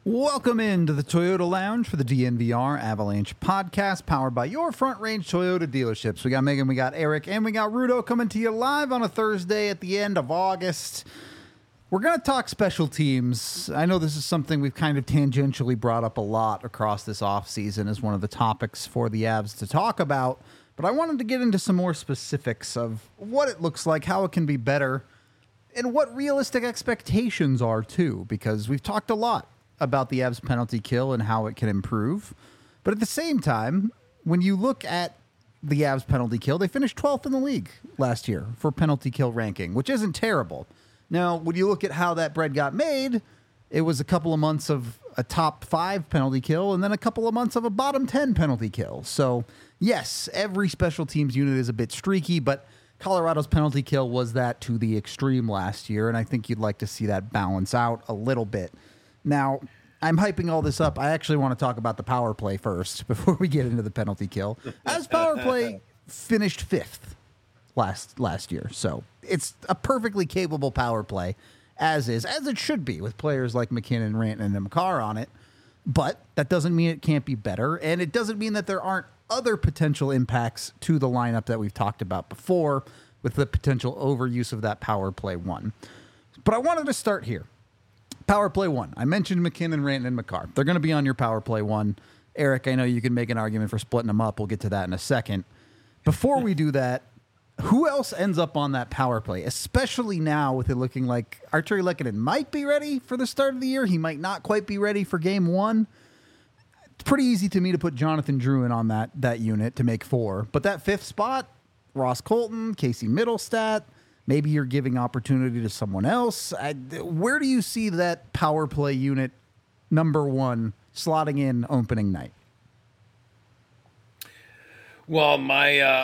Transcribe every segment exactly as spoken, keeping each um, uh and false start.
Welcome into the Toyota Lounge for the D N V R Avalanche podcast, powered by your Front Range Toyota dealerships. We got Megan, we got Eric, and we got Rudo coming to you live on a Thursday at the end of August. We're going to talk special teams. I know this is something we've kind of tangentially brought up a lot across this offseason as one of the topics for the Avs to talk about, but I wanted to get into some more specifics of what it looks like, how it can be better, and what realistic expectations are, too, because we've talked a lot about the Avs penalty kill and how it can improve. But at the same time, when you look at the Avs penalty kill, they finished twelfth in the league last year for penalty kill ranking, which isn't terrible. Now, when you look at how that bread got made, it was a couple of months of a top five penalty kill and then a couple of months of a bottom ten penalty kill. So, yes, every special teams unit is a bit streaky, but Colorado's penalty kill was that to the extreme last year, and I think you'd like to see that balance out a little bit. Now, I'm hyping all this up. I actually want to talk about the power play first before we get into the penalty kill. As power play finished fifth last last year. So it's a perfectly capable power play, as is, as it should be, with players like McKinnon, Rantanen, and Makar on it. But that doesn't mean it can't be better, and it doesn't mean that there aren't other potential impacts to the lineup that we've talked about before with the potential overuse of that power play one. But I wanted to start here. Power play one. I mentioned McKinnon, Rantanen, and Makar. They're going to be on your power play one. Eric, I know you can make an argument for splitting them up. We'll get to that in a second. Before we do that, who else ends up on that power play, especially now with it looking like Artturi Lehkonen might be ready for the start of the year. He might not quite be ready for game one. It's pretty easy to me to put Jonathan Drouin on that, that unit to make four. But that fifth spot, Ross Colton, Casey Middlestat, maybe you're giving opportunity to someone else. I, where do you see that power play unit number one slotting in opening night? Well, my uh,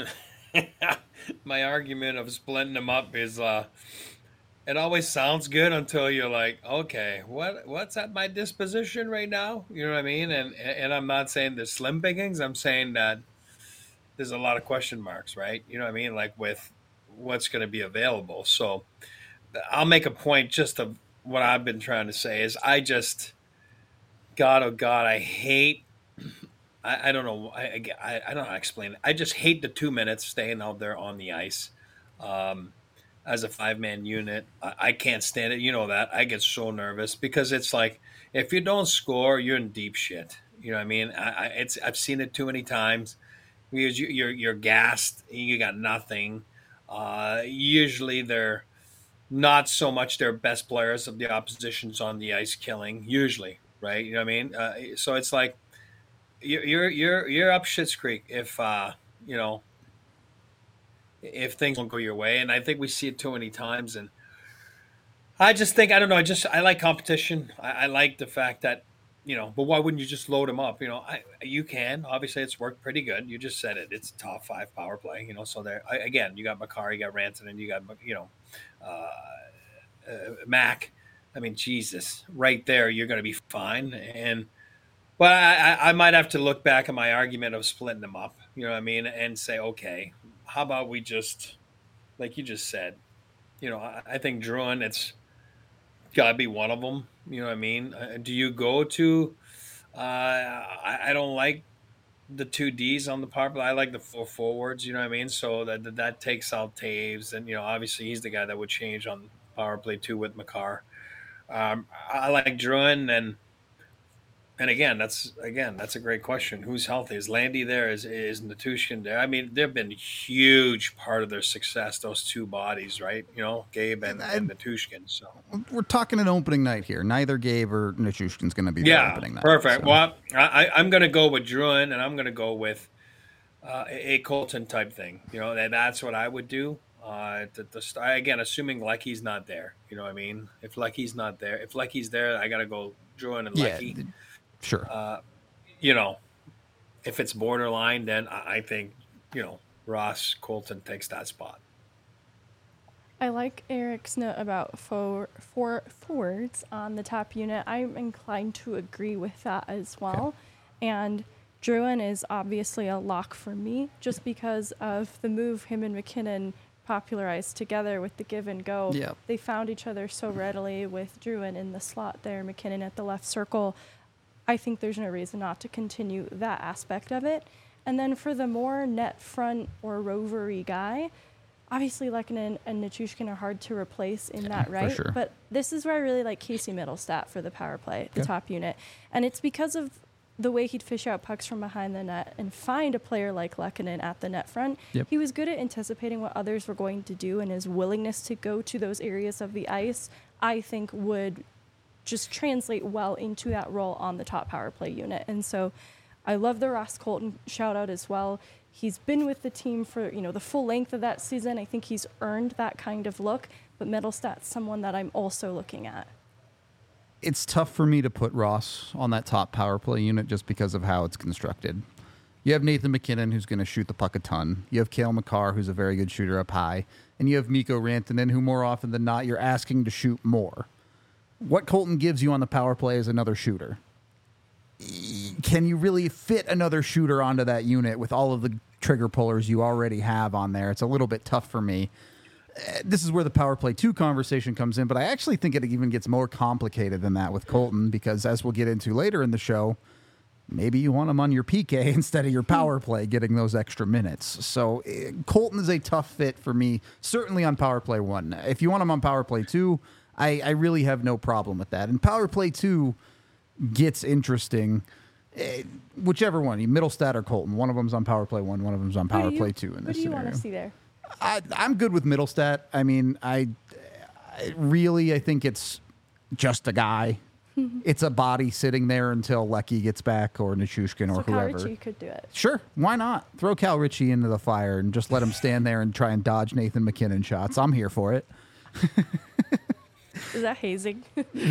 my argument of splitting them up is uh, it always sounds good until you're like, okay, what what's at my disposition right now? You know what I mean? And and I'm not saying there's slim pickings. I'm saying that there's a lot of question marks, right? You know what I mean? Like with what's going to be available. So I'll make a point just of what I've been trying to say is I just, God, oh God, I hate, I, I don't know, I, I, I don't know how to explain it. I just hate the two minutes staying out there on the ice um, as a five-man unit. I, I can't stand it. You know that. I get so nervous because it's like, if you don't score, you're in deep shit. You know what I mean? I, I, it's I've seen it too many times because you, you're, you're gassed. You got nothing. Uh, usually they're not so much their best players of the opposition's on the ice killing, usually, right? You know what I mean? Uh, so it's like you're you're you're you're up Schitt's Creek if uh, you know if things don't go your way, and I think we see it too many times. And I just think I don't know. I just I like competition. I, I like the fact that. You know, but why wouldn't you just load them up? You know, I, you can. Obviously, it's worked pretty good. You just said it. It's top five power play. You know, so there I, again, you got Makar, you got Rantanen, you got you know, uh, uh, Mac. I mean, Jesus, right there, you're going to be fine. And but I, I might have to look back at my argument of splitting them up. You know what I mean, and say, okay, how about we just, like you just said, you know, I, I think Drouin, it's got to be one of them. You know what I mean? Uh, do you go to uh, – I, I don't like the two Ds on the power play. I like the four forwards, you know what I mean? So that that, that takes out Taves. And, you know, obviously he's the guy that would change on power play two with Makar. Um, I like Drouin and – And again, that's again that's a great question. Who's healthy? Is Landy there? Is is Natushkin there? I mean, they've been a huge part of their success. Those two bodies, right? You know, Gabe and, and Natushkin. So we're talking an opening night here. Neither Gabe or Natushkin's going to be yeah, the opening night. Perfect. So. Well, I, I'm going to go with Drouin, and I'm going to go with uh, a Colton type thing. You know, that that's what I would do. Uh, the, the, again, assuming Lecky's not there. You know what I mean? If Lecky's not there, if Lecky's there, I got to go Drouin and Lecky. Yeah. Sure. Uh, you know, if it's borderline, then I think, you know, Ross Colton takes that spot. I like Eric's note about four, four forwards on the top unit. I'm inclined to agree with that as well. Okay. And Drouin is obviously a lock for me just because of the move him and McKinnon popularized together with the give and go. Yep. They found each other so readily with Drouin in the slot there, McKinnon at the left circle. I think there's no reason not to continue that aspect of it. And then for the more net front or rovery guy, obviously Lehkonen and Nichushkin are hard to replace in Yeah, that for right. sure. But this is where I really like Casey Middlestat for the power play, the Okay. top unit. And it's because of the way he'd fish out pucks from behind the net and find a player like Lehkonen at the net front. Yep. He was good at anticipating what others were going to do, and his willingness to go to those areas of the ice, I think, would just translate well into that role on the top power play unit. And so I love the Ross Colton shout out as well. He's been with the team for, you know, the full length of that season. I think he's earned that kind of look, but Middlestat's someone that I'm also looking at. It's tough for me to put Ross on that top power play unit just because of how it's constructed. You have Nathan McKinnon, who's going to shoot the puck a ton. You have Cale Makar, who's a very good shooter up high. And you have Mikko Rantanen, who more often than not, you're asking to shoot more. What Colton gives you on the power play is another shooter. Can you really fit another shooter onto that unit with all of the trigger pullers you already have on there? It's a little bit tough for me. Uh, This is where the power play two conversation comes in, but I actually think it even gets more complicated than that with Colton because, as we'll get into later in the show, maybe you want him on your P K instead of your power play getting those extra minutes. So uh, Colton is a tough fit for me, certainly on power play one. If you want him on power play two, I, I really have no problem with that. And power play two gets interesting. Uh, whichever one, Middlestat or Colton, one of them's on power play one, one of them's on Who do power you- play two in Who this do you scenario. want to see there? I, I'm good with Middlestat. I mean, I, I really, I think it's just a guy. It's a body sitting there until Lecky gets back or Nichushkin or So Cal whoever. Ritchie could do it. Sure, why not? Throw Cal Ritchie into the fire and just let him stand there and try and dodge Nathan McKinnon shots. I'm here for it. Is that hazing?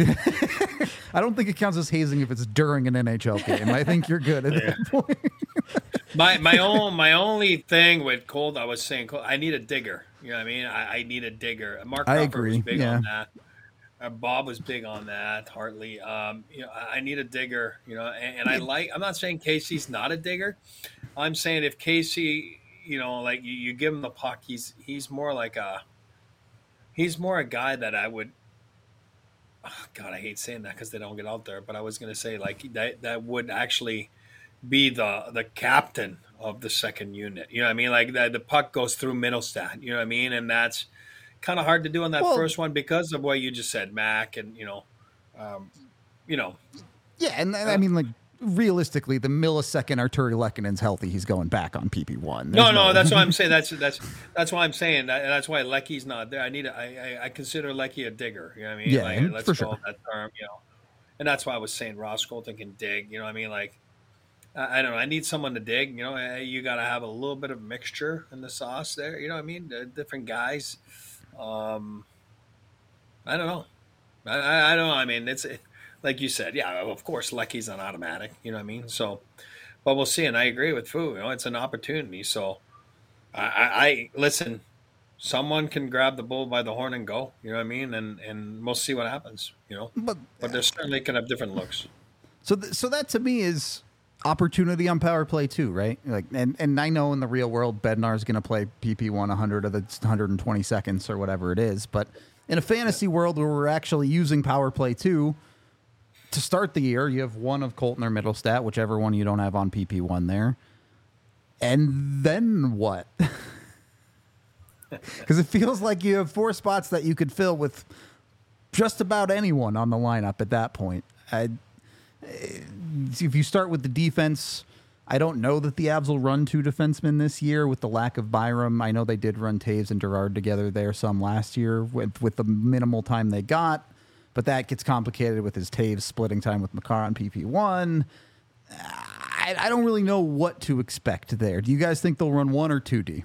I don't think it counts as hazing if it's during an N H L game. I think you're good at that point. My my own my only thing with Cold, I was saying, Cold, I need a digger. You know what I mean? I, I need a digger. Mark I Crawford agree, was big yeah. on that. Uh, Bob was big on that. Hartley, um, you know, I, I need a digger. You know, and, and I like. I'm not saying Casey's not a digger. I'm saying if Casey, you know, like you, you give him the puck, he's he's more like a. He's more a guy that I would. Oh, God, I hate saying that because they don't get out there. But I was going to say like that that would actually be the the captain of the second unit. You know what I mean? Like the, the puck goes through Middlestat. You know what I mean? And that's kind of hard to do on that Well- first one because of what you just said, Mac, and you know, um, you know, Yeah, and, and I mean, like, realistically, the millisecond Arturi Lekkonen's healthy, he's going back on P P one. no, There's no, that's what I'm saying. That's that's that's why I'm saying that, and that's why Lecky's not there. I need a, I, I I consider Lecky a digger. You know what I mean? Yeah, like, and let's for call sure. that term. You know, and that's why I was saying Ross Colton can dig. You know what I mean? Like. I I don't know. I need someone to dig. You know, eh, you got to have a little bit of mixture in the sauce there. You know what I mean? The different guys. Um, I don't know. I, I, I don't know. I mean, it's like you said. Yeah, of course, Lecky's an automatic. You know what I mean? So, but we'll see. And I agree with Fu. You know, it's an opportunity. So, I, I, I listen. Someone can grab the bull by the horn and go. You know what I mean? And and we'll see what happens. You know, But but they're certainly can have different looks. So, th- so that to me is opportunity on power play too, right? Like, and and I know in the real world, Bednar's going to play P P one one hundred of the one hundred twenty seconds or whatever it is. But in a fantasy world where we're actually using power play two to start the year, you have one of Colton or Middlestat, whichever one you don't have on P P one there. And then what? Because it feels like you have four spots that you could fill with just about anyone on the lineup at that point. I, if you start with the defense, I don't know that the Avs will run two defensemen this year with the lack of Byram. I know they did run Taves and Gerard together there some last year with, with the minimal time they got, but that gets complicated with his Taves splitting time with Makar on P P one. I, I don't really know what to expect there. Do you guys think they'll run one or two D?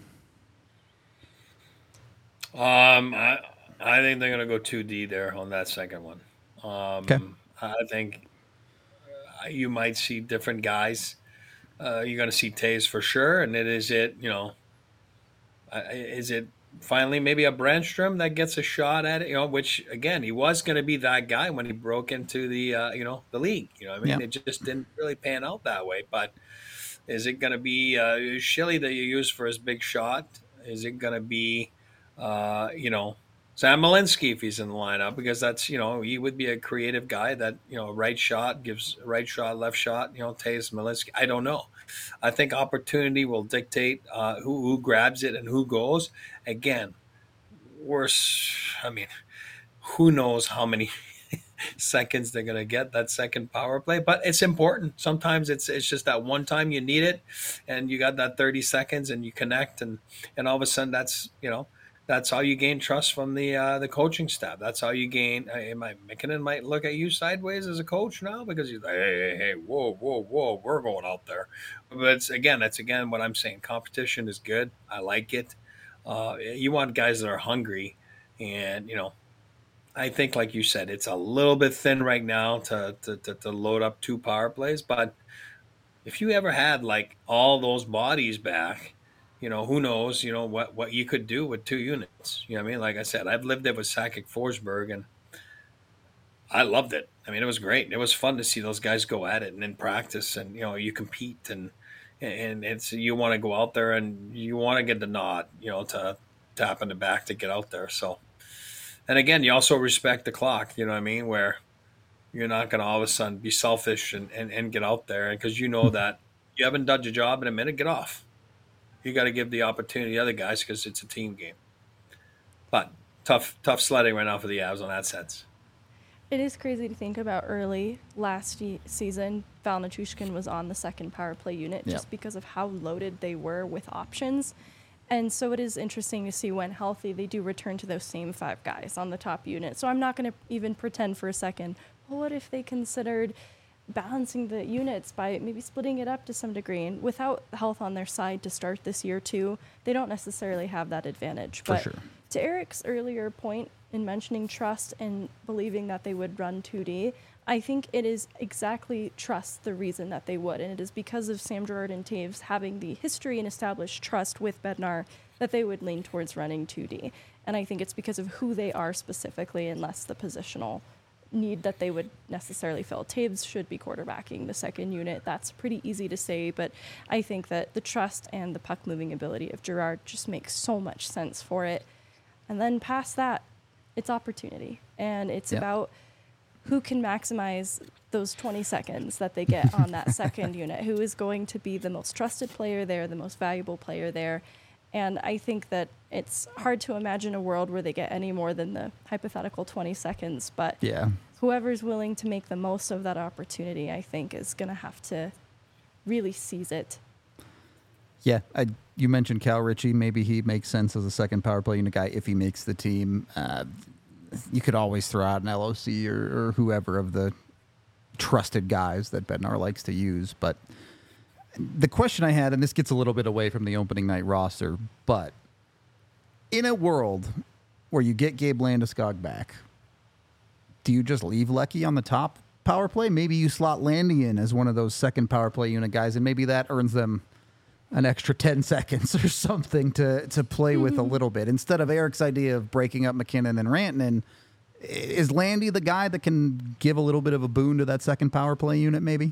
Um, I, I think they're going to go two D there on that second one. Um, Okay. I think uh, you might see different guys. Uh, you're going to see Taves for sure, and it is it. You know, uh, is it finally maybe a Brandstrom that gets a shot at it? You know, which again he was going to be that guy when he broke into the uh, you know the league. You know, what I mean, Yeah. it just didn't really pan out that way. But is it going to be uh, Shilly that you use for his big shot? Is it going to be uh, you know, Sam Malinsky if he's in the lineup, because that's, you know, he would be a creative guy that, you know, right shot gives right shot, left shot, you know, Taves Malinsky. I don't know. I think opportunity will dictate uh, who, who grabs it and who goes. Again, worse. I mean, who knows how many seconds they're going to get that second power play, but it's important. Sometimes it's it's just that one time you need it, and you got that thirty seconds, and you connect, and and all of a sudden that's, you know, that's how you gain trust from the uh, the coaching staff. That's how you gain. Uh, might McKinnon might look at you sideways as a coach now, because he's like, hey, hey, hey, whoa, whoa, whoa, we're going out there. But it's again, that's again what I'm saying. Competition is good. I like it. Uh, you want guys that are hungry, and you know, I think, like you said, it's a little bit thin right now to, to, to, to load up two power plays. But if you ever had like all those bodies back, you know, who knows, you know, what, what you could do with two units. You know what I mean? Like I said, I've lived there with Sakic Forsberg, and I loved it. I mean, it was great. It was fun to see those guys go at it and in practice, and, you know, you compete, and, and it's, you want to go out there and you want to get the nod, you know, to tap in the back to get out there. So, and again, you also respect the clock, you know what I mean? Where you're not going to all of a sudden be selfish and, and, and get out there, because you know that you haven't done your job in a minute, get off. You got to give the opportunity to other guys, because it's a team game. But tough, tough sledding right now for the Avs on that sense. It is crazy to think about. Early last ye- season, Val Nichushkin was on the second power play unit Yep. just because of how loaded they were with options. And so it is interesting to see when healthy, they do return to those same five guys on the top unit. So I'm not going to even pretend for a second, well, what if they considered balancing the units by maybe splitting it up to some degree? And without health on their side to start this year too, they don't necessarily have that advantage. For But sure. to Eric's earlier point in mentioning trust and believing that they would run two D, I think it is exactly trust the reason that they would. And it is because of Sam Girard and Taves having the history and established trust with Bednar that they would lean towards running two D. And I think it's because of who they are specifically, and less the positional need that they would necessarily fill. Taves should be quarterbacking the second unit. That's pretty easy to say, but I think that the trust and the puck moving ability of Girard just makes so much sense for it. And then past that, it's opportunity. And it's Yep. about who can maximize those twenty seconds that they get on that second unit, who is going to be the most trusted player there, the most valuable player there. And I think that it's hard to imagine a world where they get any more than the hypothetical twenty seconds. But Yeah. whoever's willing to make the most of that opportunity, I think, is going to have to really seize it. Yeah, I, you mentioned Cal Ritchie. Maybe he makes sense as a second power play unit guy if he makes the team. Uh, you could always throw out an L O C or, or whoever of the trusted guys that Bednar likes to use. But the question I had, and this gets a little bit away from the opening night roster, but in a world where you get Gabe Landeskog back, do you just leave Lecky on the top power play? Maybe you slot Landy in as one of those second power play unit guys, and maybe that earns them an extra ten seconds or something to, to play mm-hmm. with a little bit. Instead of Eric's idea of breaking up McKinnon and Rantanen, is Landy the guy that can give a little bit of a boon to that second power play unit maybe?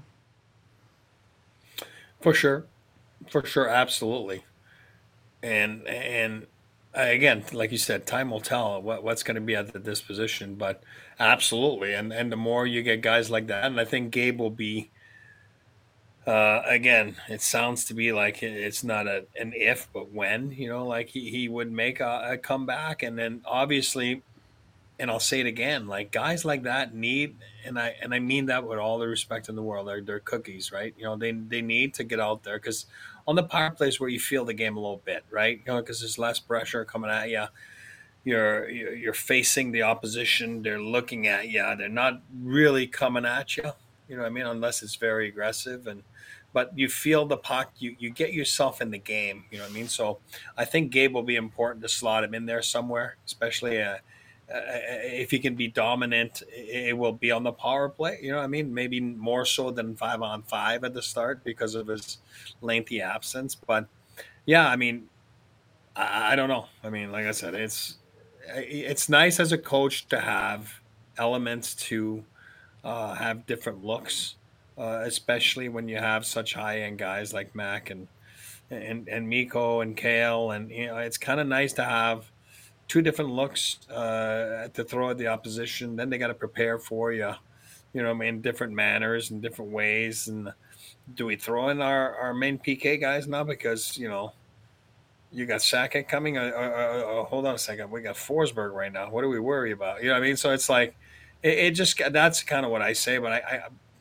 For sure. For sure, absolutely. And and again, like you said, time will tell what, what's going to be at the disposition, but absolutely. And and the more you get guys like that, and I think Gabe will be, uh, again, it sounds to be like it's not a, an if, but when, you know, like he, he would make a, a comeback. And then obviously, and I'll say it again, like guys like that need, and I and I mean that with all the respect in the world, they're, they're cookies, right? You know, they they need to get out there, because on the power plays where you feel the game a little bit, right? You know, because there's less pressure coming at you. You're you're facing the opposition. They're looking at you. They're not really coming at you. You know what I mean? Unless it's very aggressive, and but you feel the puck. You you get yourself in the game. You know what I mean? So I think Gabe will be important to slot him in there somewhere, especially uh, uh, if he can be dominant. It will be on the power play. You know what I mean? Maybe more so than five on five at the start because of his lengthy absence. But yeah, I mean, I, I don't know. I mean, like I said, it's it's nice as a coach to have elements to uh, have different looks, uh, especially when you have such high end guys like Mac and and and Mikko and Kale, and you know, it's kind of nice to have two different looks uh, to throw at the opposition. Then they got to prepare for you, you know, in different manners and different ways. And do we throw in our, our main P K guys now because, you know, you got Sackett coming? Uh, uh, uh, uh, hold on a second. We got Forsberg right now. What do we worry about? You know what I mean? So it's like, it, it just, that's kind of what I say. But I, I,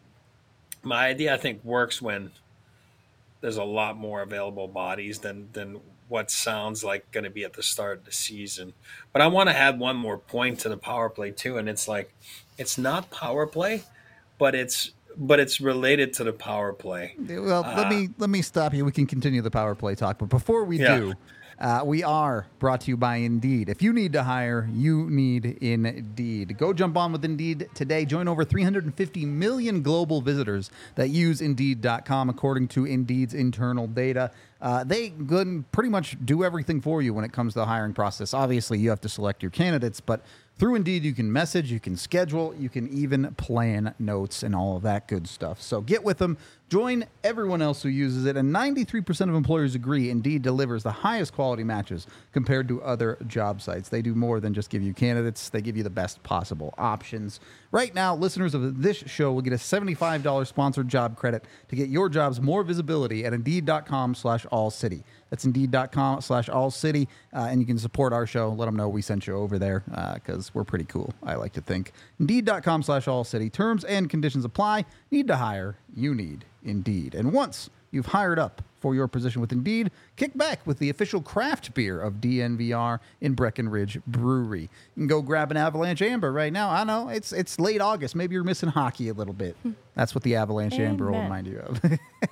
my idea, I think, works when there's a lot more available bodies than, than what sounds like going to be at the start of the season. But I want to add one more point to the power play too. And it's like, it's not power play, but it's, but it's related to the power play. Well, uh, let me let me stop you. We can continue the power play talk, but before we yeah. do, uh, we are brought to you by Indeed. If you need to hire, you need Indeed. Go jump on with Indeed today. Join over three hundred fifty million global visitors that use Indeed dot com, according to Indeed's internal data. Uh, they can pretty much do everything for you when it comes to the hiring process. Obviously, you have to select your candidates, but through Indeed, you can message, you can schedule, you can even plan notes and all of that good stuff. So get with them. Join everyone else who uses it. And ninety-three percent of employers agree Indeed delivers the highest quality matches compared to other job sites. They do more than just give you candidates. They give you the best possible options. Right now, listeners of this show will get a seventy-five dollars sponsored job credit to get your jobs more visibility at Indeed dot com slash all city. That's Indeed dot com slash all city. Uh, and you can support our show. Let them know we sent you over there because uh, we're pretty cool, I like to think. Indeed dot com slash all city. Terms and conditions apply. Need to hire. You need Indeed. And once you've hired up for your position with Indeed, kick back with the official craft beer of D N V R in Breckenridge Brewery. You can go grab an Avalanche Amber right now. I know, it's it's late August. Maybe you're missing hockey a little bit. That's what the Avalanche Amen. Amber will remind you of.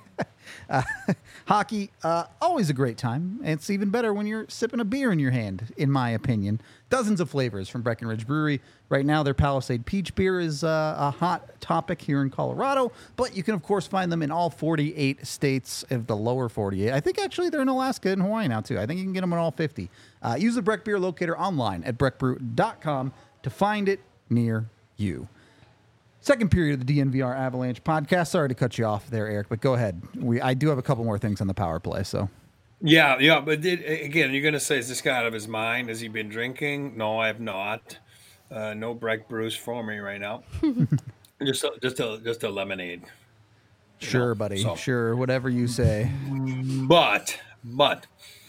Uh, hockey, uh, always a great time. It's even better when you're sipping a beer in your hand, in my opinion. Dozens of flavors from Breckenridge Brewery. Right now, their Palisade Peach Beer is uh, a hot topic here in Colorado, but you can, of course, find them in all forty-eight states of the lower forty-eight. I think, actually, they're in Alaska and Hawaii now, too. I think you can get them in all fifty. Uh, use the Breck Beer Locator online at breck brew dot com to find it near you. Second period of the D N V R Avalanche podcast. Sorry to cut you off there, Eric, but go ahead. We I do have a couple more things on the power play. So, yeah, yeah, but did, again, you're going to say, is this guy out of his mind? Has he been drinking? No, I have not. Uh, no Breck brews for me right now. just, a, just, a, just a lemonade. Sure, know? buddy. So, sure, whatever you say. But, but,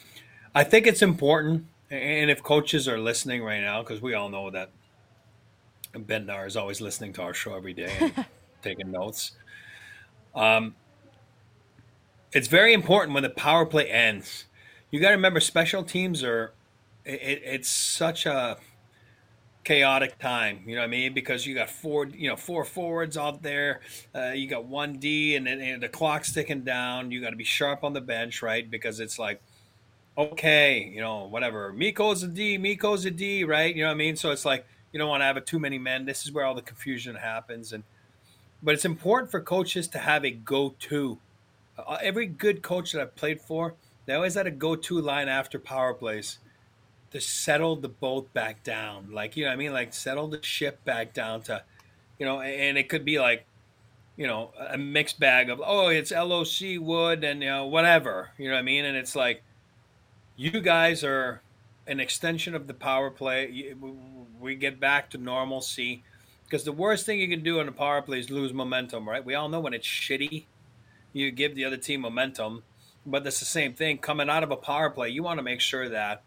I think it's important, and if coaches are listening right now, because we all know that Bednar is always listening to our show every day and taking notes. Um, it's very important when the power play ends. You got to remember, special teams are. It, it's such a chaotic time. You know what I mean? Because you got four, you know, four forwards out there. Uh, you got one D, and then and the clock's ticking down. You got to be sharp on the bench, right? Because it's like, okay, you know, whatever. Mikko's a D. Mikko's a D, right? You know what I mean? So it's like, you don't want to have it too many men. This is where all the confusion happens. And but it's important for coaches to have a go-to. Uh, every good coach that I've played for, they always had a go-to line after power plays to settle the boat back down. Like, you know what I mean? Like, settle the ship back down to, you know, and it could be like, you know, a mixed bag of, oh, it's L O C Wood and, you know, whatever. You know what I mean? And it's like, you guys are an extension of the power play. We get back to normalcy, because the worst thing you can do on a power play is lose momentum, right? We all know when it's shitty, you give the other team momentum, but that's the same thing. Coming out of a power play, you want to make sure that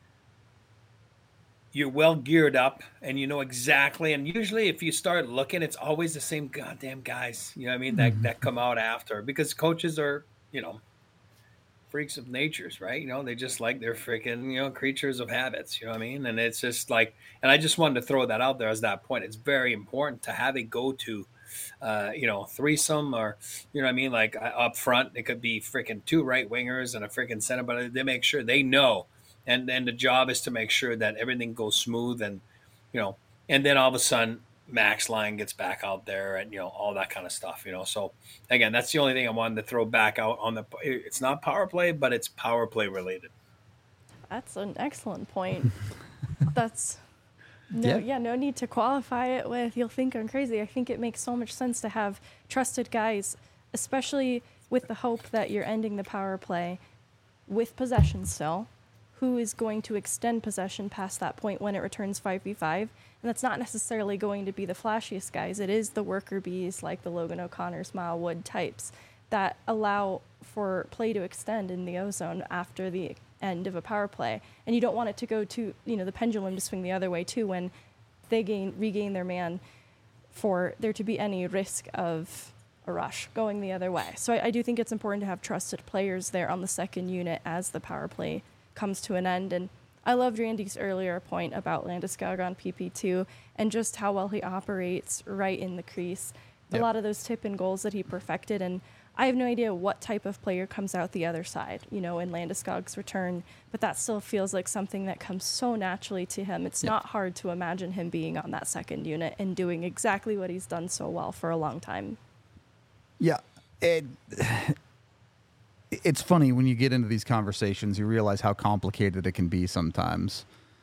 you're well geared up and you know exactly. And usually if you start looking, it's always the same goddamn guys, you know what I mean, that, mm-hmm. that come out after, because coaches are, you know, freaks of natures, right? You know, they just like they're freaking, you know, creatures of habits, you know what I mean? And it's just like, and I just wanted to throw that out there as that point. It's very important to have a go-to, uh, you know, threesome, or, you know what I mean? Like, up front, it could be freaking two right wingers and a freaking center, but they make sure they know. And then the job is to make sure that everything goes smooth, and, you know, and then all of a sudden, Max line gets back out there, and, you know, all that kind of stuff, you know. So again, that's the only thing I wanted to throw back out on the, it's not power play, but it's power play related. That's an excellent point. That's no, yeah. yeah, no need to qualify it with, you'll think I'm crazy. I think it makes so much sense to have trusted guys, especially with the hope that you're ending the power play with possession still, who is going to extend possession past that point when it returns five v five. And that's not necessarily going to be the flashiest guys. It is the worker bees like the Logan O'Connors, Mile Wood types that allow for play to extend in the ozone after the end of a power play. And you don't want it to go to, you know, the pendulum to swing the other way too when they gain regain their man, for there to be any risk of a rush going the other way. So I, I do think it's important to have trusted players there on the second unit as the power play comes to an end. And I loved Randy's earlier point about Landeskog on P P two and just how well he operates right in the crease. Yep. A lot of those tip-in goals that he perfected, and I have no idea what type of player comes out the other side, you know, in Landeskog's return, but that still feels like something that comes so naturally to him. It's yep. not hard to imagine him being on that second unit and doing exactly what he's done so well for a long time. Yeah, it, it's funny when you get into these conversations, you realize how complicated it can be sometimes.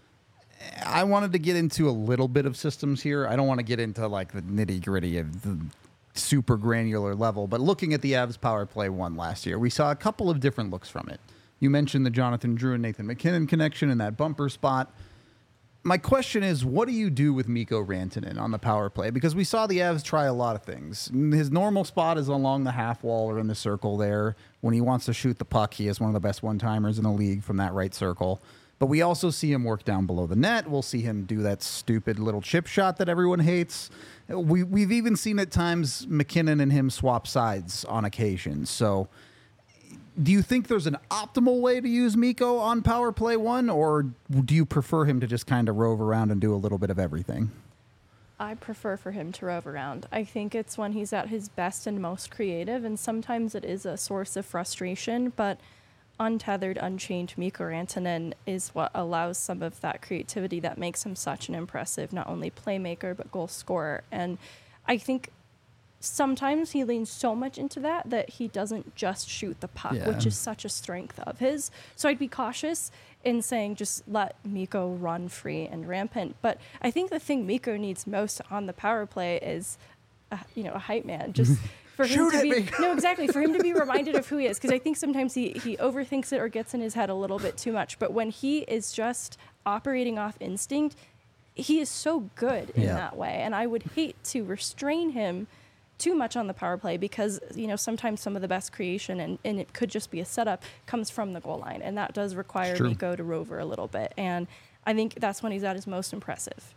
I wanted to get into a little bit of systems here. I don't want to get into like the nitty gritty of the super granular level, but looking at the Avs power play one last year, we saw a couple of different looks from it. You mentioned the Jonathan Drew and Nathan MacKinnon connection in that bumper spot. My question is, what do you do with Mikko Rantanen on the power play? Because we saw the Avs try a lot of things. His normal spot is along the half wall or in the circle there. When he wants to shoot the puck, he is one of the best one-timers in the league from that right circle. But we also see him work down below the net. We'll see him do that stupid little chip shot that everyone hates. We, we've even seen at times McKinnon and him swap sides on occasion. So do you think there's an optimal way to use Mikko on power play one, or do you prefer him to just kind of rove around and do a little bit of everything? I prefer for him to rove around. I think it's when he's at his best and most creative, and sometimes it is a source of frustration, but untethered, unchained Mikko Rantanen is what allows some of that creativity that makes him such an impressive, not only playmaker, but goal scorer. And I think sometimes he leans so much into that that he doesn't just shoot the puck, yeah. which is such a strength of his. So I'd be cautious in saying just let Mikko run free and rampant. But I think the thing Mikko needs most on the power play is, a, you know, a hype man. Just for him Shoot to at be me. no, exactly for him to be reminded of who he is. Because I think sometimes he he overthinks it or gets in his head a little bit too much. But when he is just operating off instinct, he is so good in yeah. that way. And I would hate to restrain him too much on the power play because, you know, sometimes some of the best creation, and, and it could just be a setup, comes from the goal line. And that does require Mikko to rover a little bit. And I think that's when he's at his most impressive.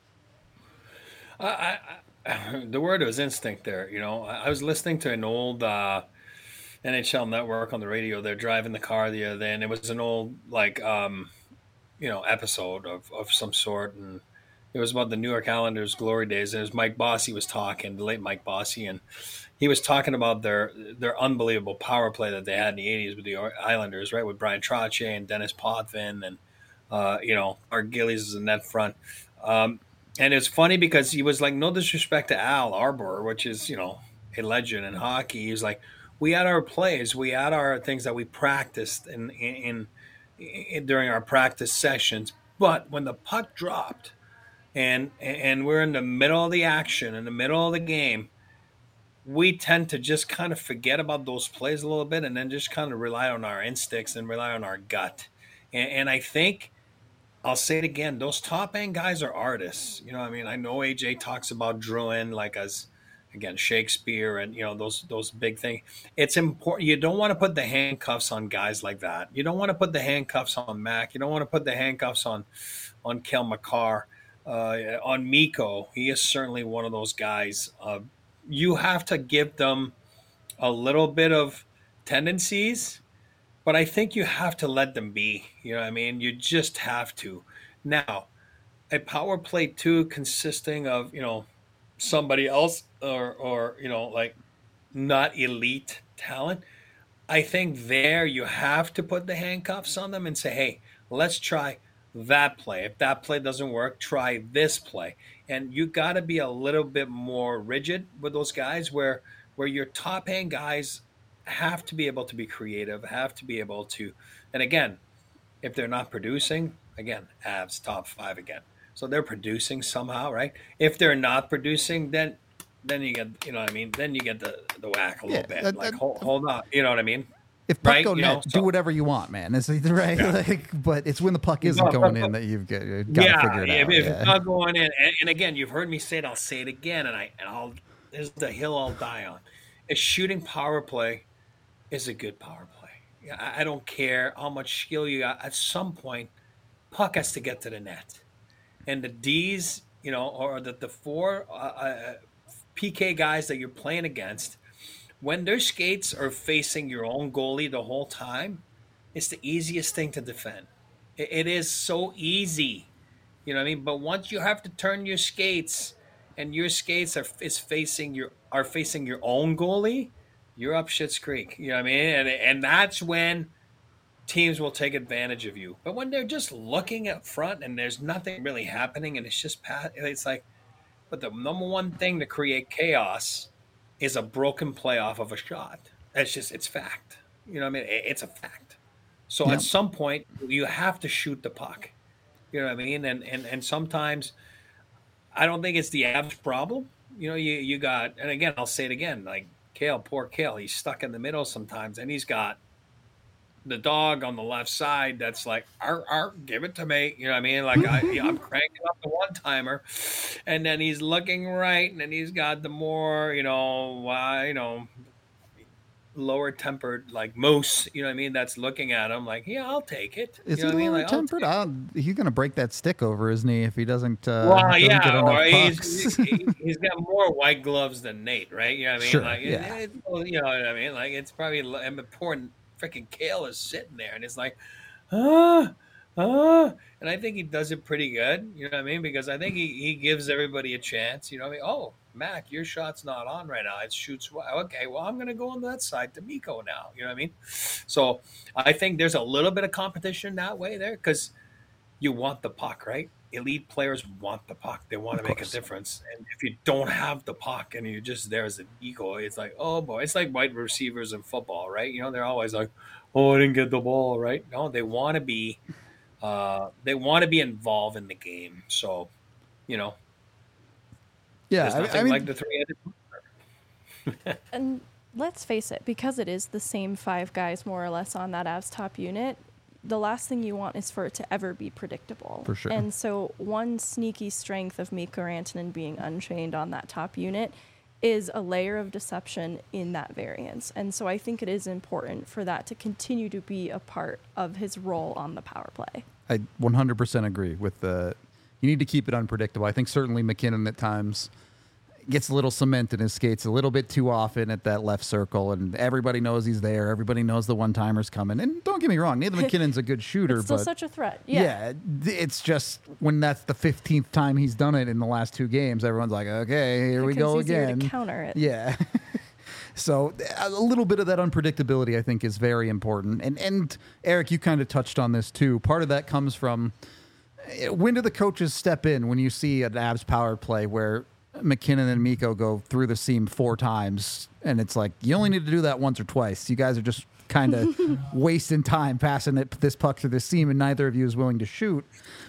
Uh, I, I, the word was instinct there. You know, I, I was listening to an old uh, N H L network on the radio. They're driving the car the other day, and it was an old, like, um, you know, episode of, of some sort. And it was about the New York Islanders' glory days, and it was Mike Bossy was talking, the late Mike Bossy, and he was talking about their their unbelievable power play that they had in the eighties with the Islanders, right, with Brian Trottier and Dennis Potvin and, uh, you know, Art Gillies is in that front. Um, and it's funny because he was like, no disrespect to Al Arbor, which is, you know, a legend in hockey. He was like, we had our plays, we had our things that we practiced in, in, in, in during our practice sessions, but when the puck dropped, And and we're in the middle of the action, in the middle of the game, we tend to just kind of forget about those plays a little bit and then just kind of rely on our instincts and rely on our gut. And, and I think, I'll say it again, those top-end guys are artists. You know, I mean, I know A J talks about Druin like as, again, Shakespeare and, you know, those those big things. It's important. You don't want to put the handcuffs on guys like that. You don't want to put the handcuffs on Mac. You don't want to put the handcuffs on, on Kel McCarr. Uh, on Mikko, he is certainly one of those guys. Uh, you have to give them a little bit of tendencies, but I think you have to let them be. You know what I mean? You just have to. Now, a power play two consisting of, you know, somebody else or, or you know, like not elite talent, I think there you have to put the handcuffs on them and say, hey, let's try that play. If that play doesn't work, try this play. And you got to be a little bit more rigid with those guys where where your top end guys have to be able to be creative, have to be able to, and again, if they're not producing, again, Avs top five again. So they're producing somehow, right? If they're not producing, then then you get, you know what I mean? Then you get the, the whack a little Yeah, bit. that- like, that- hold, hold on. You know what I mean? if puck right? go You net, know, do so whatever you want, man. It's right, yeah. like, but it's when the puck You isn't know, going but- in that you've got, you've got to yeah, figure it if, out. if yeah. it's not going in, and, and again, you've heard me say it. I'll say it again, and I and I'll. This is the hill I'll die on. A shooting power play is a good power play. Yeah, I, I don't care how much skill you got. At some point, puck has to get to the net, and the D's, you know, or the the four uh, uh, P K guys that you're playing against, when their skates are facing your own goalie the whole time, it's the easiest thing to defend. It, it is so easy, you know what I mean? But once you have to turn your skates, and your skates are is facing your are facing your own goalie, you're up shit's creek. You know what I mean? And and that's when teams will take advantage of you. But when they're just looking up front and there's nothing really happening, and it's just pat, it's like, but the number one thing to create chaos is a broken play off of a shot. It's just it's fact. You know what I mean? It- It's a fact. So Yeah. at some point you have to shoot the puck. You know what I mean? And and and sometimes I don't think it's the Avs problem. You know, you you got, and again I'll say it again, like Kale, poor Kale, he's stuck in the middle sometimes, and he's got the dog on the left side that's like, arr, arr, give it to me. You know what I mean? Like I, I'm cranking up the one timer, and then he's looking right, and then he's got the more, you know, uh, you know, lower tempered like moose. You know what I mean? That's looking at him like, yeah, I'll take it. Is you know he what I mean? lower Like, I'll tempered? take it. I'll, he's gonna break that stick over his knee if he doesn't. Uh, Well, doesn't get yeah, enough or he's pucks. he, he's got more white gloves than Nate, right? You know what I mean? Sure, Like, it- yeah. it- well, you know what I mean? Like, it's probably, I mean, poor freaking Kale is sitting there, and it's like, ah, ah, and I think he does it pretty good. You know what I mean? Because I think he, he gives everybody a chance. You know what I mean? Oh, Mac, your shot's not on right now. It shoots. Okay, well, I'm going to go on that side to Miko now. You know what I mean? So I think there's a little bit of competition that way there because you want the puck, right? Elite players want the puck. They want to Of make a course. difference. And if you don't have the puck and you're just there as an ego, it's like, oh boy, it's like wide receivers in football, right? You know, they're always like, oh, I didn't get the ball, right? No, they want to be, uh, they want to be involved in the game. So, you know, Yeah, there's I, nothing I mean, like the three-headed. And let's face it, because it is the same five guys more or less on that Avs top unit, the last thing you want is for it to ever be predictable. For sure. And so one sneaky strength of Mikko Rantanen being unchained on that top unit is a layer of deception in that variance. And so I think it is important for that to continue to be a part of his role on the power play. I one hundred percent agree with the. You need to keep it unpredictable. I think certainly McKinnon at times gets a little cement in his skates a little bit too often at that left circle, and everybody knows he's there. Everybody knows the one timer's coming. And don't get me wrong, Nathan McKinnon's a good shooter, It's still but such a threat. Yeah. yeah, it's just when that's the fifteenth time he's done it in the last two games, everyone's like, okay, here we Because go it's easier again. to counter it. Yeah. So a little bit of that unpredictability, I think, is very important. And and Eric, you kind of touched on this too. Part of that comes from eh, when do the coaches step in when you see an Avs power play where McKinnon and Mikko go through the seam four times, and it's like you only need to do that once or twice. You guys are just kind of wasting time passing it this puck through the seam, and neither of you is willing to shoot.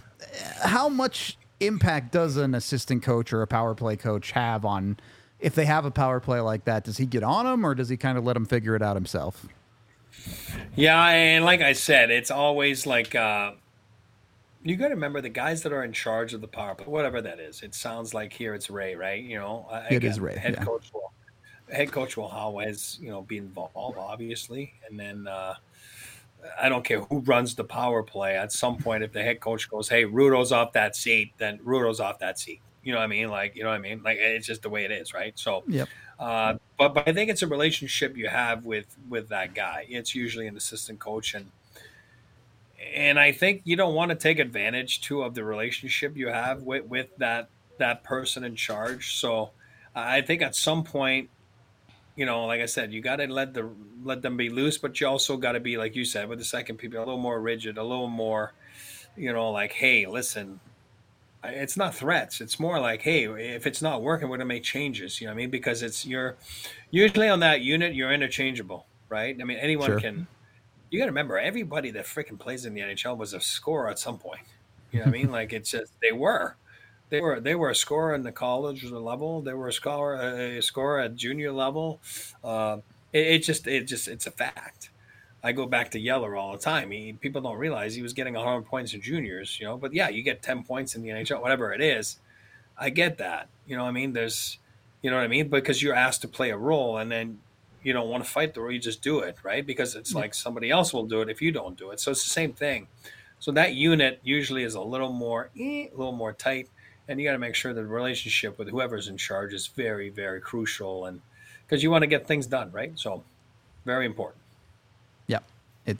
How much impact does an assistant coach or a power play coach have on if they have a power play like that? Does he get on them, or does he kind of let them figure it out himself? Yeah, and like I said, it's always like uh, you got to remember the guys that are in charge of the power play, whatever that is. It sounds like here it's Ray, right? You know, uh, It is Ray, Head yeah. coach will, head coach will always, you know, be involved, obviously, and then uh, I don't care who runs the power play. At some point, if the head coach goes, "Hey, Rudo's off that seat," then Rudo's off that seat. You know what I mean? Like, you know what I mean? Like, it's just the way it is, right? So, Yep. uh, but but I think it's a relationship you have with with that guy. It's usually an assistant coach, and and I think you don't want to take advantage too of the relationship you have with with that that person in charge. So, I think at some point, you know, like I said, you got to let the let them be loose, but you also got to be, like you said, with the second people, a little more rigid, a little more, you know, like, hey, listen. It's not threats. It's more like, hey, if it's not working, we're going to make changes. You know what I mean? Because it's you're usually on that unit, you're interchangeable, right? I mean, anyone Sure. can. You got to remember, everybody that freaking plays in the N H L was a scorer at some point. You know what I mean? Like, it's just they were, they were, they were a scorer in the college level. They were a scorer, a scorer at junior level. Uh, it, it just, it just, it's a fact. I go back to Yeller all the time. He, people don't realize he was getting one hundred points in juniors, you know. But yeah, you get ten points in the N H L, whatever it is. I get that. You know what I mean? There's, you know what I mean? Because you're asked to play a role, and then you don't want to fight the role, you just do it, right? Because it's like somebody else will do it if you don't do it. So it's the same thing. So that unit usually is a little more, eh, a little more tight, and you got to make sure the relationship with whoever's in charge is very, very crucial, and because you want to get things done, right? So very important. Yeah, it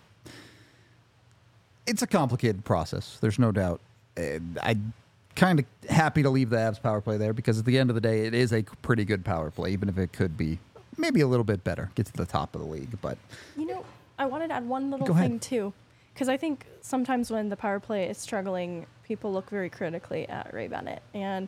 it's a complicated process. There's no doubt. Uh, I kind of happy to leave the Avs power play there because at the end of the day, it is a pretty good power play, even if it could be maybe a little bit better, get to the top of the league. But you know, I wanted to add one little Go ahead. thing too, because I think sometimes when the power play is struggling, people look very critically at Ray Bennett, and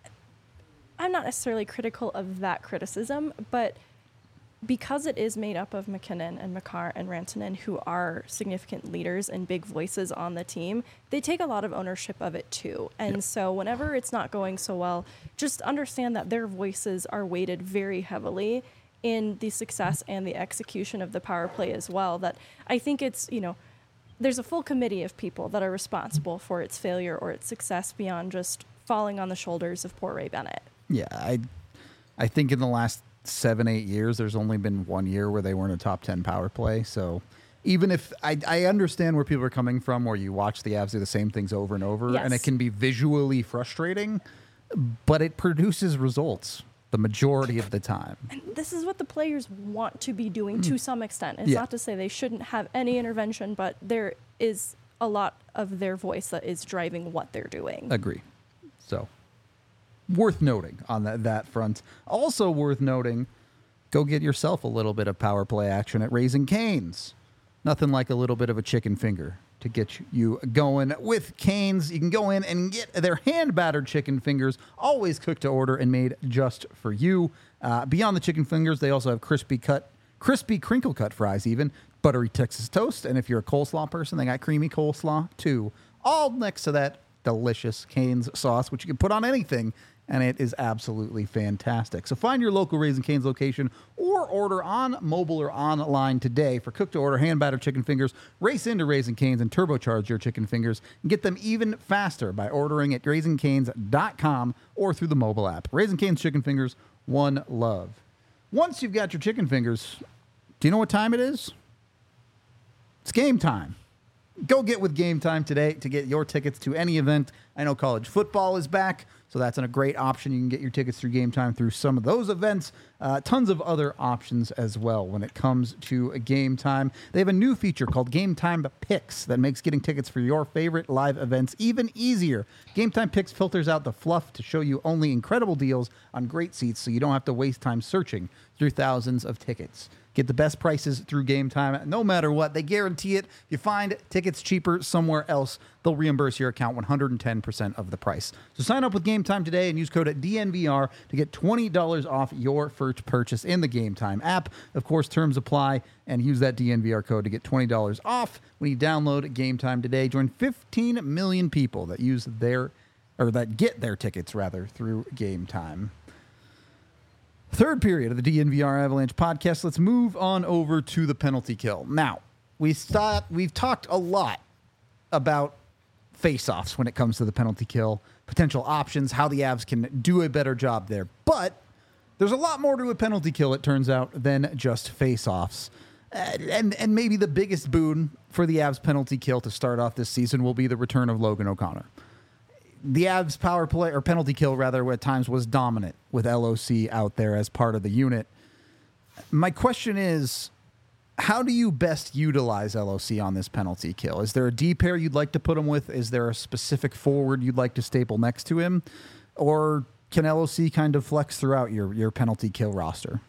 I'm not necessarily critical of that criticism, but because it is made up of McKinnon and Makar and Rantanen, who are significant leaders and big voices on the team, they take a lot of ownership of it too. And yep. so whenever it's not going so well, just understand that their voices are weighted very heavily in the success and the execution of the power play as well. That I think it's, you know, there's a full committee of people that are responsible for its failure or its success beyond just falling on the shoulders of poor Ray Bennett. Yeah, I, I think in the last seven, eight years, there's only been one year where they weren't a top ten power play. So even if I, I understand where people are coming from, where you watch the Avs do the same things over and over, yes. and it can be visually frustrating, but it produces results the majority of the time. And this is what the players want to be doing to some extent. It's Yeah. not to say they shouldn't have any intervention, but there is a lot of their voice that is driving what they're doing. Agree. So worth noting on that, that front. Also worth noting, go get yourself a little bit of power play action at Raising Cane's. Nothing like a little bit of a chicken finger to get you going with Cane's. You can go in and get their hand-battered chicken fingers, always cooked to order and made just for you. Uh, beyond the chicken fingers, they also have crispy cut, crispy crinkle-cut fries even, buttery Texas toast, and if you're a coleslaw person, they got creamy coleslaw too. All next to that delicious Cane's sauce, which you can put on anything, and it is absolutely fantastic. So find your local Raising Cane's location or order on mobile or online today for cook-to-order hand-battered chicken fingers. Race into Raising Cane's and turbocharge your chicken fingers and get them even faster by ordering at raising canes dot com or through the mobile app. Raising Cane's chicken fingers, one love. Once you've got your chicken fingers, do you know what time it is? It's game time. Go get with Game Time today to get your tickets to any event. I know college football is back, so that's a great option. You can get your tickets through Game Time through some of those events. Uh, tons of other options as well when it comes to a Game Time. They have a new feature called Game Time Picks that makes getting tickets for your favorite live events even easier. Game Time Picks filters out the fluff to show you only incredible deals on great seats so you don't have to waste time searching through thousands of tickets. Get the best prices through Game Time, no matter what. They guarantee it. If you find tickets cheaper somewhere else, they'll reimburse your account one hundred ten percent of the price. So sign up with Game Time today and use code D N V R to get twenty dollars off your first purchase in the Game Time app. Of course, terms apply, and use that D N V R code to get twenty dollars off when you download Game Time today. Join fifteen million people that use their, or that get their tickets rather, through Game Time. Third period of the D N V R Avalanche podcast. Let's move on over to the penalty kill. Now, we thought, we've talked a lot about face-offs when it comes to the penalty kill, potential options, how the Avs can do a better job there. But there's a lot more to a penalty kill, it turns out, than just face-offs. And, and maybe the biggest boon for the Avs penalty kill to start off this season will be the return of Logan O'Connor. The Avs power play, or penalty kill rather, at times was dominant with L O C out there as part of the unit. My question is, how do you best utilize L O C on this penalty kill? Is there a D pair you'd like to put him with? Is there a specific forward you'd like to staple next to him? Or can L O C kind of flex throughout your, your penalty kill roster?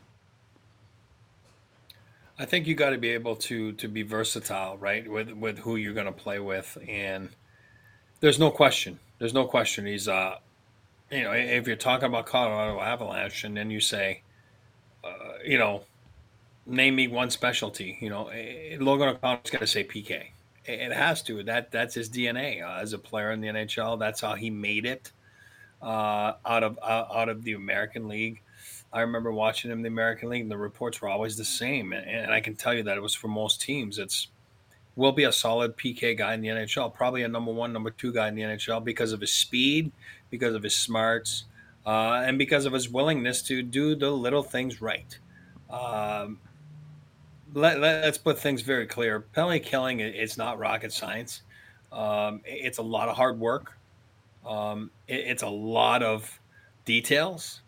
I think you got to be able to to be versatile, right, with with who you're going to play with, and there's no question. There's no question. He's, uh, you know, if you're talking about Colorado Avalanche, and then you say, uh, you know, name me one specialty. You know, Logan O'Connor's going to say P K. It has to. That that's his D N A uh, as a player in the N H L. That's how he made it uh, out of uh, out of the American League. I remember watching him in the American League, and the reports were always the same. And, and I can tell you that it was for most teams. It's will be a solid P K guy in the N H L, probably a number one, number two guy in the N H L because of his speed, because of his smarts, uh, and because of his willingness to do the little things right. Um, let, let, us put things very clear. Penalty killing is not rocket science. Um, it's a lot of hard work. Um, it, it's a lot of details.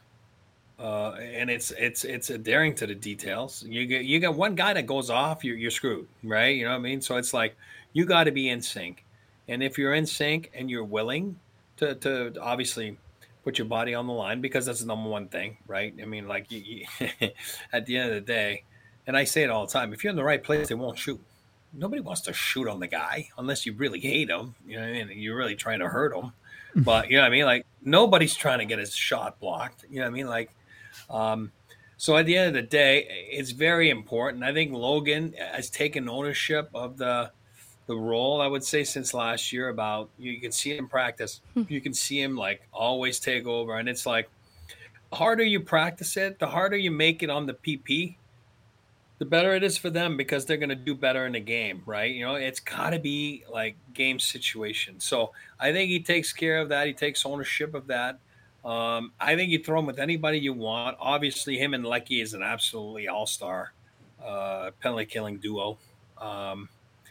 Uh, and it's it's it's adhering to the details. You get you got one guy that goes off, you're you're screwed, right? You know what I mean? So it's like you got to be in sync, and if you're in sync and you're willing to to obviously put your body on the line, because that's the number one thing, right? I mean, like you, you, at the end of the day, and I say it all the time: if you're in the right place, they won't shoot. Nobody wants to shoot on the guy unless you really hate him. You know what I mean? You're really trying to hurt him, but you know what I mean? Like nobody's trying to get his shot blocked. You know what I mean? Like. Um, so at the end of the day, it's very important. I think Logan has taken ownership of the the role, I would say, since last year. About you can see him practice. You can see him like always take over. And it's like the harder you practice it, the harder you make it on the P P, the better it is for them because they're going to do better in the game, right? You know, it's got to be like game situation. So I think he takes care of that. He takes ownership of that. Um, I think you throw him with anybody you want. Obviously, him and Lecky is an absolutely all-star uh, penalty killing duo. Um,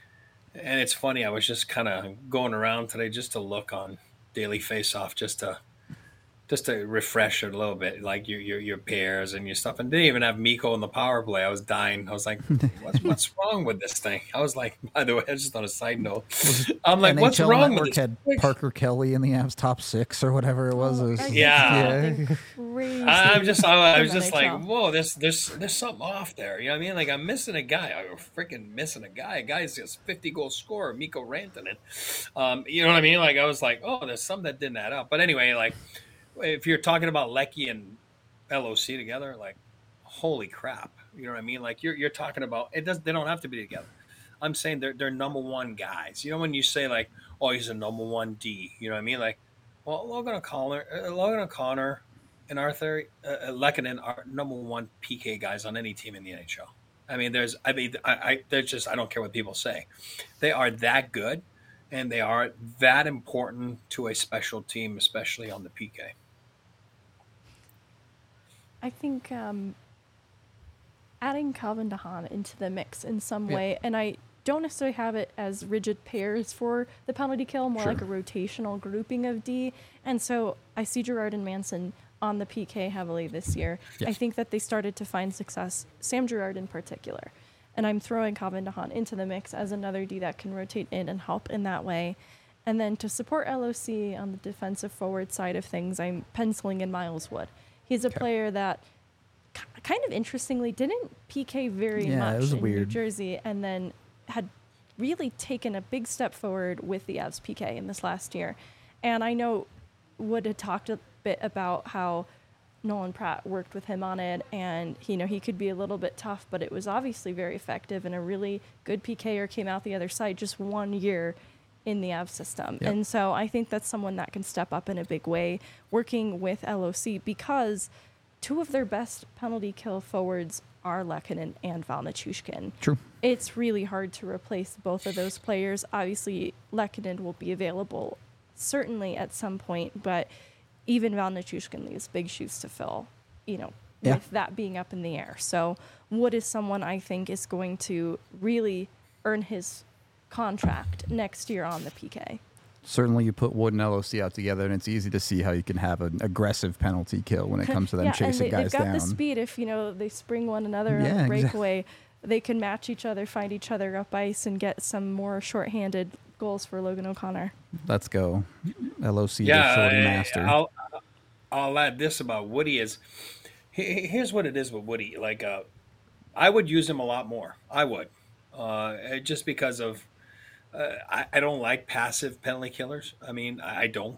and it's funny. I was just kind of going around today just to look on Daily Faceoff just to just to refresh it a little bit, like your your your pairs and your stuff. And didn't even have Mikko in the power play. I was dying. I was like, what's what's wrong with this thing? I was like, by the way, just on a side note, I'm like, N H L what's wrong Network with this? had Parker Kelly in the Avs top six or whatever it was. Oh, It was I just- Yeah. think crazy I- I'm just, I, I was from just N H L. like, whoa, there's, there's, there's something off there. You know what I mean? Like I'm missing a guy. I'm freaking missing a guy. A guy's just fifty goal scorer, Mikko Rantanen. Um, you know what I mean? Like I was like, oh, there's something that didn't add up. But anyway, like if you're talking about Lecky and L O C together, like holy crap. You know what I mean? Like you're, you're talking about it. Does they don't have to be together. I'm saying they're they're number one guys. You know when you say like, oh, he's a number one D. You know what I mean? Like, well, Logan O'Connor, uh, Logan O'Connor, and Arthur uh, Lehkonen are number one P K guys on any team in the N H L. I mean, there's, I mean, I, I there's just I don't care what people say. They are that good, and they are that important to a special team, especially on the P K. I think um, adding Calvin DeHaan into the mix in some Yeah. way, and I don't necessarily have it as rigid pairs for the penalty kill, more Sure. like a rotational grouping of D. And so I see Gerard and Manson on the P K heavily this year. Yes. I think that they started to find success, Sam Gerard in particular. And I'm throwing Calvin DeHaan into the mix as another D that can rotate in and help in that way. And then to support L O C on the defensive forward side of things, I'm penciling in Miles Wood. He's a Okay. player that k- kind of interestingly didn't P K very Yeah, it much was in weird. New Jersey, and then had really taken a big step forward with the Avs P K in this last year. And I know Wood had talked a bit about how Nolan Pratt worked with him on it, and you know he could be a little bit tough, but it was obviously very effective, and a really good PKer came out the other side just one year in the Avs system. Yep. And so I think that's someone that can step up in a big way working with L O C, because two of their best penalty kill forwards are Lehkonen and Val Nichushkin. True. It's really hard to replace both of those players. Obviously, Lehkonen will be available certainly at some point, but even Val Nichushkin leaves big shoes to fill, you know, Yeah. with that being up in the air. So Wood is someone I think is going to really earn his contract next year on the P K. Certainly, you put Wood and L O C out together, and it's easy to see how you can have an aggressive penalty kill when it comes to them yeah, chasing and they, guys they've got down. the speed. If you know they spring one another on Yeah, a exactly. breakaway, they can match each other, find each other up ice, and get some more shorthanded goals for Logan O'Connor. Let's go, L O C, Yeah, the shorty I- master. I'll I'll add this about Woody is he- he- here's what it is with Woody. Like uh, I would use him a lot more. I would, uh, just because of uh, I, I don't like passive penalty killers. I mean, I, I don't.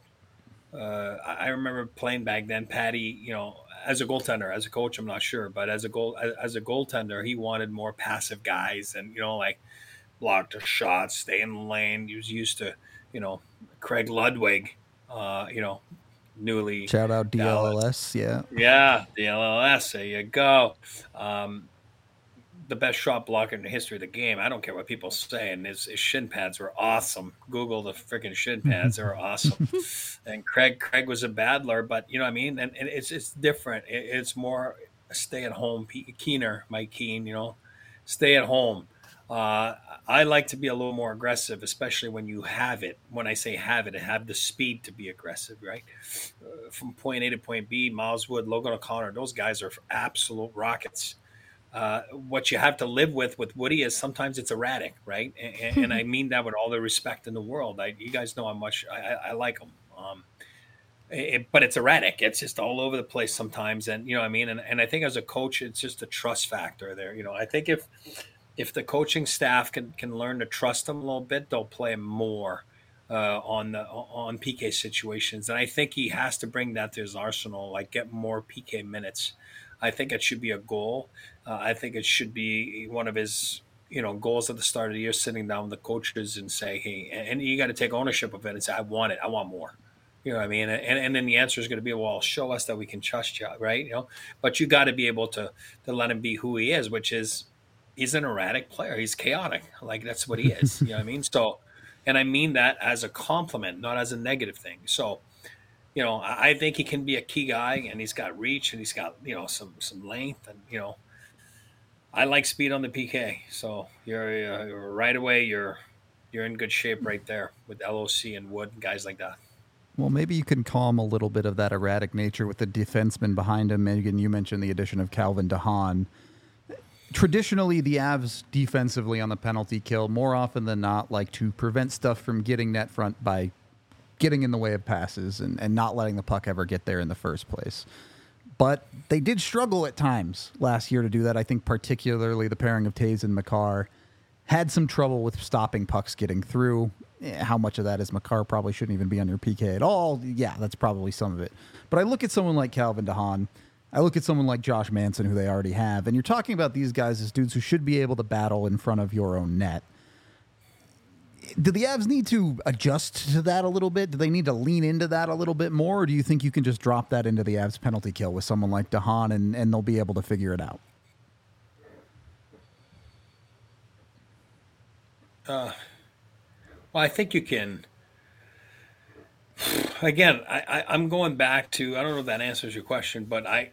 Uh, I I remember playing back then. Patty, you know, as a goaltender, as a coach, I'm not sure, but as a goal as, as a goaltender, he wanted more passive guys, and you know, like block the shots, stay in the lane. He was used to, you know, Craig Ludwig, uh, you know, newly Shout out Dallas. D L L S, yeah. Yeah, the L L S. There you go. Um, the best shot blocker in the history of the game. I don't care what people say. And his, his shin pads were awesome. Google the freaking shin pads; they were awesome. And Craig, Craig was a battler, but you know what I mean. And, and it's it's different. It, it's more stay at home. Keener, Mike Keen, you know, stay at home. Uh, I like to be a little more aggressive, especially when you have it. When I say have it, have the speed to be aggressive, right? Uh, from point A to point B, Miles Wood, Logan O'Connor, those guys are absolute rockets. Uh, what you have to live with with Woody is sometimes it's erratic, right? And, and I mean that with all the respect in the world. I, you guys know how much I, I, I like him. Um, it, but it's erratic. It's just all over the place sometimes. And, you know what I mean? And, and I think as a coach, it's just a trust factor there. You know, I think if if the coaching staff can can learn to trust him a little bit, they'll play more uh, on the on P K situations. And I think he has to bring that to his arsenal, like get more P K minutes. I think it should be a goal. Uh, I think it should be one of his, you know, goals at the start of the year, sitting down with the coaches and say, hey, and you got to take ownership of it and say, I want it. I want more. You know what I mean? And, and then the answer is going to be, well, show us that we can trust you, right? You know, but you got to be able to to let him be who he is, which is he's an erratic player. He's chaotic. Like that's what he is. You know what I mean? So, and I mean that as a compliment, not as a negative thing. So, you know, I think he can be a key guy, and he's got reach, and he's got, you know, some some length, and you know, I like speed on the P K. So you're, you're right away, you're you're in good shape right there with L O C and Wood and guys like that. Well, maybe you can calm a little bit of that erratic nature with the defenseman behind him. Megan, you mentioned the addition of Calvin DeHaan. Traditionally, the Avs defensively on the penalty kill, more often than not, like to prevent stuff from getting net front by getting in the way of passes and, and not letting the puck ever get there in the first place. But they did struggle at times last year to do that. I think particularly the pairing of Taves and Makar had some trouble with stopping pucks getting through. How much of that is Makar probably shouldn't even be on your P K at all? Yeah, that's probably some of it. But I look at someone like Calvin DeHaan, I look at someone like Josh Manson, who they already have, and you're talking about these guys as dudes who should be able to battle in front of your own net. Do the Avs need to adjust to that a little bit? Do they need to lean into that a little bit more? Or do you think you can just drop that into the Avs penalty kill with someone like DeHaan and, and they'll be able to figure it out? Uh, well, I think you can. Again, I, I, I'm going back to, I don't know if that answers your question, but I,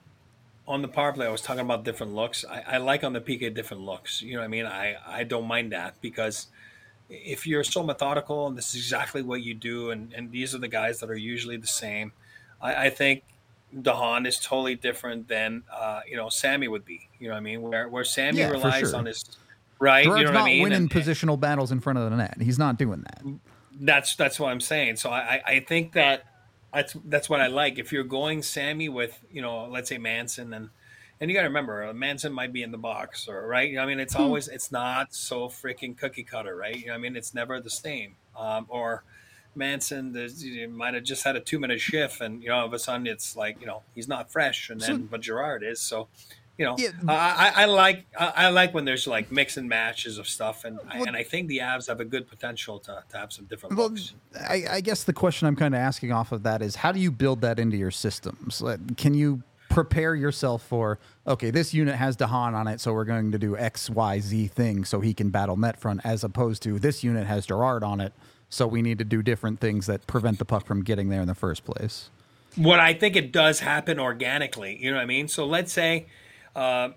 on the power play, I was talking about different looks. I, I like on the P K different looks. You know what I mean? I, I don't mind that because if you're so methodical and this is exactly what you do, and, and these are the guys that are usually the same, I, I think DeHaan is totally different than, uh, you know, Sammy would be. You know what I mean? Where where Sammy Yeah, for relies sure. on his, right? Gerard's you know what not I mean? winning And- positional battles in front of the net. He's not doing that. That's that's what I'm saying. So I, I think that that's that's what I like. If you're going Sammy with, you know, let's say Manson, and and you got to remember Manson might be in the box, or right. You know, I mean, it's always it's not so freaking cookie cutter, right? You know, I mean, it's never the same. Um, or Manson, there's, you might have just had a two minute shift, and you know, all of a sudden it's like, you know, he's not fresh, and then So- but Gerard is. So you know, Yeah. I, I, I like I, I like when there's like mix and matches of stuff, and Well- and I think the Avs have a good potential to, to have some different Well, looks. I, I guess the question I'm kind of asking off of that is, how do you build that into your systems? Like, can you prepare yourself for, okay, this unit has DeHaan on it, so we're going to do X, Y, Z thing so he can battle net front, as opposed to this unit has Gerard on it, so we need to do different things that prevent the puck from getting there in the first place. What I think it does happen organically. You know what I mean? So let's say, uh,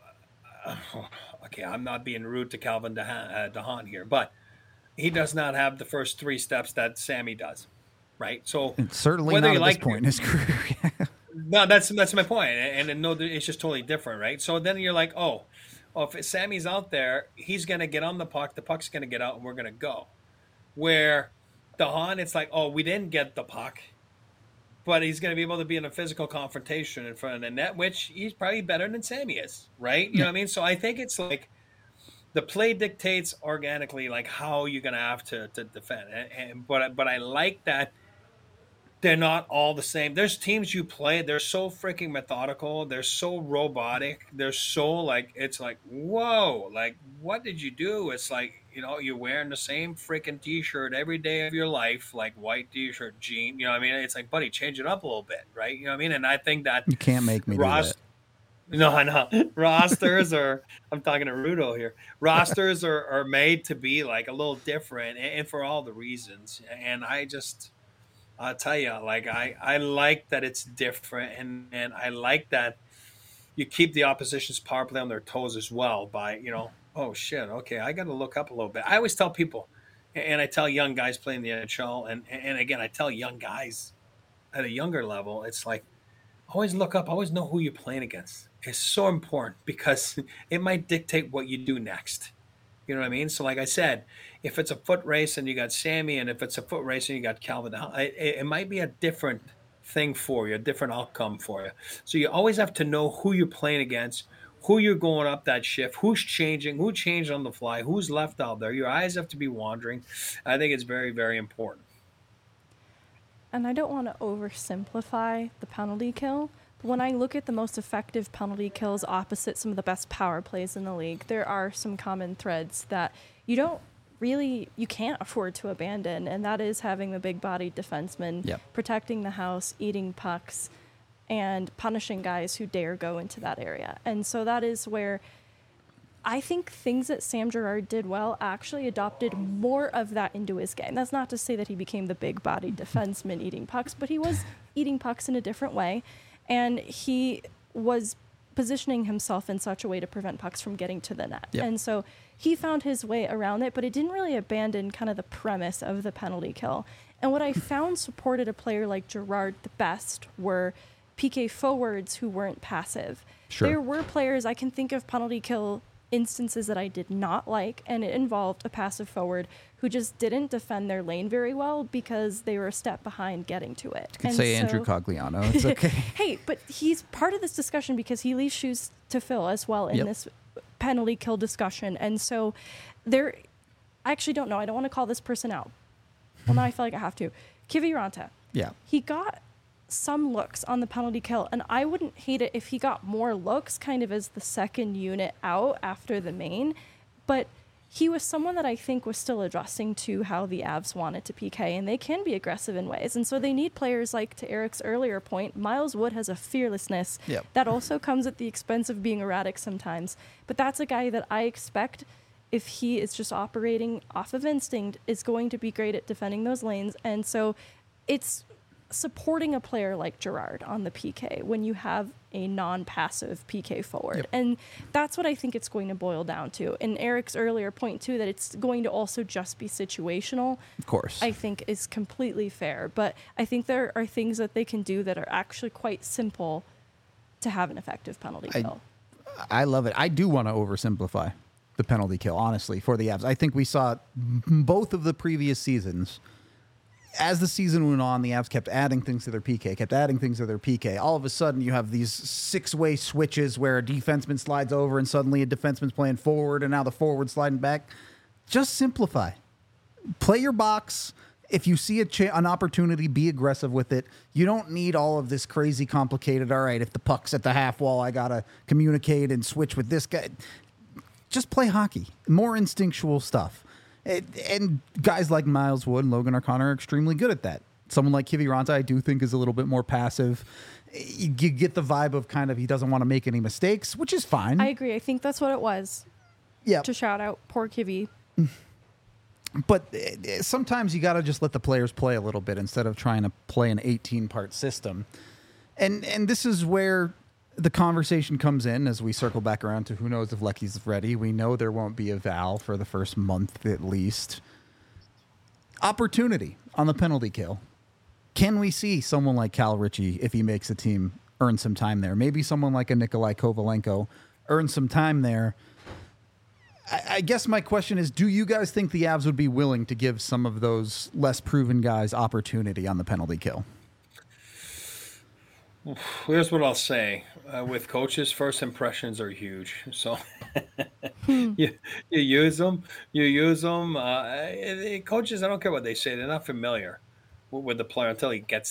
okay, I'm not being rude to Calvin DeHaan, uh, DeHaan here, but he does not have the first three steps that Sammy does, right? So It's certainly whether not you at like this point in his career. no, that's that's my point, and, and no, it's just totally different, right? So then you're like, oh, well, if Sammy's out there, he's gonna get on the puck, the puck's gonna get out, and we're gonna go. Where DeHaan, it's like, oh, we didn't get the puck, but he's going to be able to be in a physical confrontation in front of the net, which he's probably better than Sammy is, right? You know what I mean? So I think it's like the play dictates organically, like how you're going to have to to defend. And, and but but I like that they're not all the same. There's teams you play, they're so freaking methodical, they're so robotic, they're so like, it's like, whoa, like what did you do? It's like You know, you're wearing the same freaking t-shirt every day of your life, like white t-shirt, jean. You know what I mean? It's like, buddy, change it up a little bit, right? You know what I mean? And I think that You can't make me do that. Ross, no, I know rosters are. I'm talking to Rudo here. Rosters are, are made to be like a little different, and, and for all the reasons. And I just, I'll tell you, like I, I like that it's different, and and I like that you keep the opposition's power play on their toes as well by, you know, oh shit, okay, I got to look up a little bit. I always tell people, and I tell young guys playing the N H L, and and again, I tell young guys at a younger level, it's like always look up, always know who you're playing against. It's so important because it might dictate what you do next. You know what I mean? So, like I said, if it's a foot race and you got Sammy, and if it's a foot race and you got Calvin, it, it might be a different thing for you, a different outcome for you. So you always have to know who you're playing against, who you're going up that shift, who's changing, who changed on the fly, who's left out there. Your eyes have to be wandering. I think it's very, very important. And I don't want to oversimplify the penalty kill, but when I look at the most effective penalty kills opposite some of the best power plays in the league, there are some common threads that you don't really, you can't afford to abandon, and that is having the big-bodied defenseman, Yep. protecting the house, eating pucks, and punishing guys who dare go into that area. And so that is where I think things that Sam Girard did well actually adopted more of that into his game. That's not to say that he became the big-bodied defenseman eating pucks, but he was eating pucks in a different way, and he was positioning himself in such a way to prevent pucks from getting to the net. Yep. And so he found his way around it, but it didn't really abandon kind of the premise of the penalty kill. And what I found supported a player like Girard the best were P K forwards who weren't passive. Sure. There were players, I can think of penalty kill instances that I did not like, and it involved a passive forward who just didn't defend their lane very well because they were a step behind getting to it. You could And say so- Andrew Cogliano. It's okay. Hey, but he's part of this discussion because he leaves shoes to fill as well in Yep. this penalty kill discussion. And so there, I actually don't know. I don't want to call this person out. Well, now I feel like I have to. Kiviranta. Yeah. He got some looks on the penalty kill, and I wouldn't hate it if he got more looks kind of as the second unit out after the main. But he was someone that I think was still adjusting to how the Avs wanted to P K, and they can be aggressive in ways. And so they need players like, to Eric's earlier point, Miles Wood has a fearlessness Yep. that also comes at the expense of being erratic sometimes. But that's a guy that I expect, if he is just operating off of instinct, is going to be great at defending those lanes. And so it's supporting a player like Girard on the P K when you have a non-passive P K forward. Yep. And that's what I think it's going to boil down to. And Eric's earlier point, too, that it's going to also just be situational, Of course. I think is completely fair. But I think there are things that they can do that are actually quite simple to have an effective penalty I- kill. I love it. I do want to oversimplify the penalty kill, honestly, for the Avs. I think we saw m- both of the previous seasons. As the season went on, the Avs kept adding things to their P K, kept adding things to their P K. All of a sudden, you have these six-way switches where a defenseman slides over and suddenly a defenseman's playing forward and now the forward sliding back. Just simplify. Play your box. If you see a cha- an opportunity, be aggressive with it. You don't need all of this crazy complicated, all right, if the puck's at the half wall, I got to communicate and switch with this guy. Just play hockey. More instinctual stuff. And, and guys like Miles Wood and Logan O'Connor are extremely good at that. Someone like Kiviranta, I do think, is a little bit more passive. You, you get the vibe of kind of he doesn't want to make any mistakes, which is fine. I agree. I think that's what it was. Yeah. To shout out poor Kivy. But uh, sometimes you got to just let the players play a little bit instead of trying to play an eighteen-part system. And and this is where the conversation comes in as we circle back around to who knows if Lecky's ready. We know there won't be a Val for the first month at least. Opportunity on the penalty kill. Can we see someone like Cal Ritchie, if he makes a team, earn some time there? Maybe someone like a Nikolai Kovalenko earn some time there. I, I guess my question is, do you guys think the Avs would be willing to give some of those less proven guys opportunity on the penalty kill? Here's what I'll say. Uh, with coaches, first impressions are huge. So you, you use them. You use them. Uh, eh, coaches, I don't care what they say. They're not familiar with, with the player until he gets there.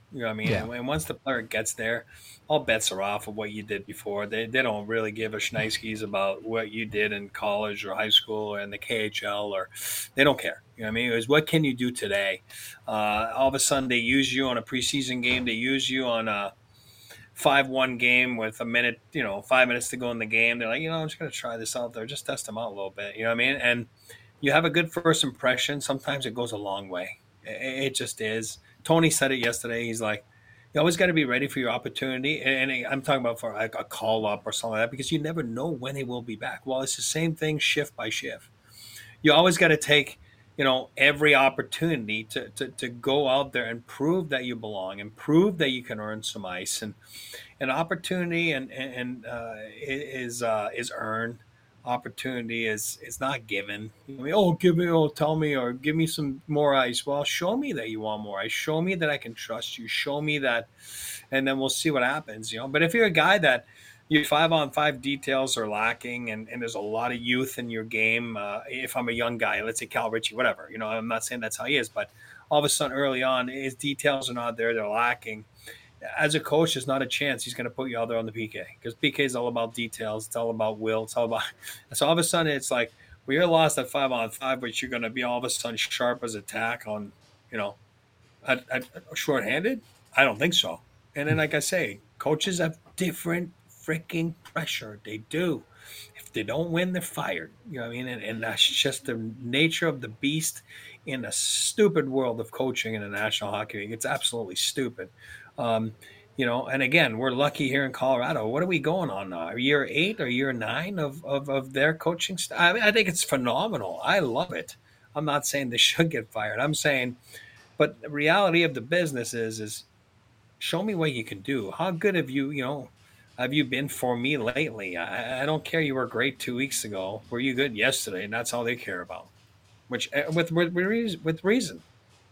You know what I mean? Yeah. And, and once the player gets there, all bets are off of what you did before. They, they don't really give a shnikes about what you did in college or high school or in the K H L, or they don't care. You know what I mean? It was what can you do today? Uh, all of a sudden, they use you on a preseason game. They use you on a five one game with a minute, you know, five minutes to go in the game. They're like, you know, I'm just going to try this out there, just test them out a little bit. You know what I mean? And you have a good first impression. Sometimes it goes a long way. It, it just is. Tony said it yesterday. He's like, you always got to be ready for your opportunity. And, and I'm talking about for like a call up or something like that, because you never know when he will be back. Well, it's the same thing shift by shift. You always got to take, you know, every opportunity to, to, to go out there and prove that you belong and prove that you can earn some ice. And an opportunity and, and uh, is uh, is earned. Opportunity is is not given. I mean, oh, give me, oh, tell me, or give me some more ice. Well, show me that you want more ice. Show me that I can trust you. Show me that, and then we'll see what happens. You know. But if you're a guy that your five on five details are lacking, and, and there's a lot of youth in your game. Uh, if I'm a young guy, let's say Cal Ritchie, whatever. You know, I'm not saying that's how he is, but all of a sudden early on, his details are not there. They're lacking. As a coach, there's not a chance he's going to put you out there on the P K, because P K is all about details. It's all about will. It's all about. So all of a sudden, it's like, well, you're lost at five on five, but you're going to be all of a sudden sharp as a tack on, you know, at, at, shorthanded. I don't think so. And then, like I say, coaches have different freaking pressure. They do. If they don't win, they're fired. You know what I mean? And, and that's just the nature of the beast in a stupid world of coaching in the National Hockey League. It's absolutely stupid. Um, you know, and again, we're lucky here in Colorado. What are we going on now? Year eight or year nine of, of, of their coaching staff? I mean, I think it's phenomenal. I love it. I'm not saying they should get fired. I'm saying, but the reality of the business is, is show me what you can do. How good have you, you know, have you been for me lately? I, I don't care. You were great two weeks ago. Were you good yesterday? And that's all they care about, which with, with, with reason.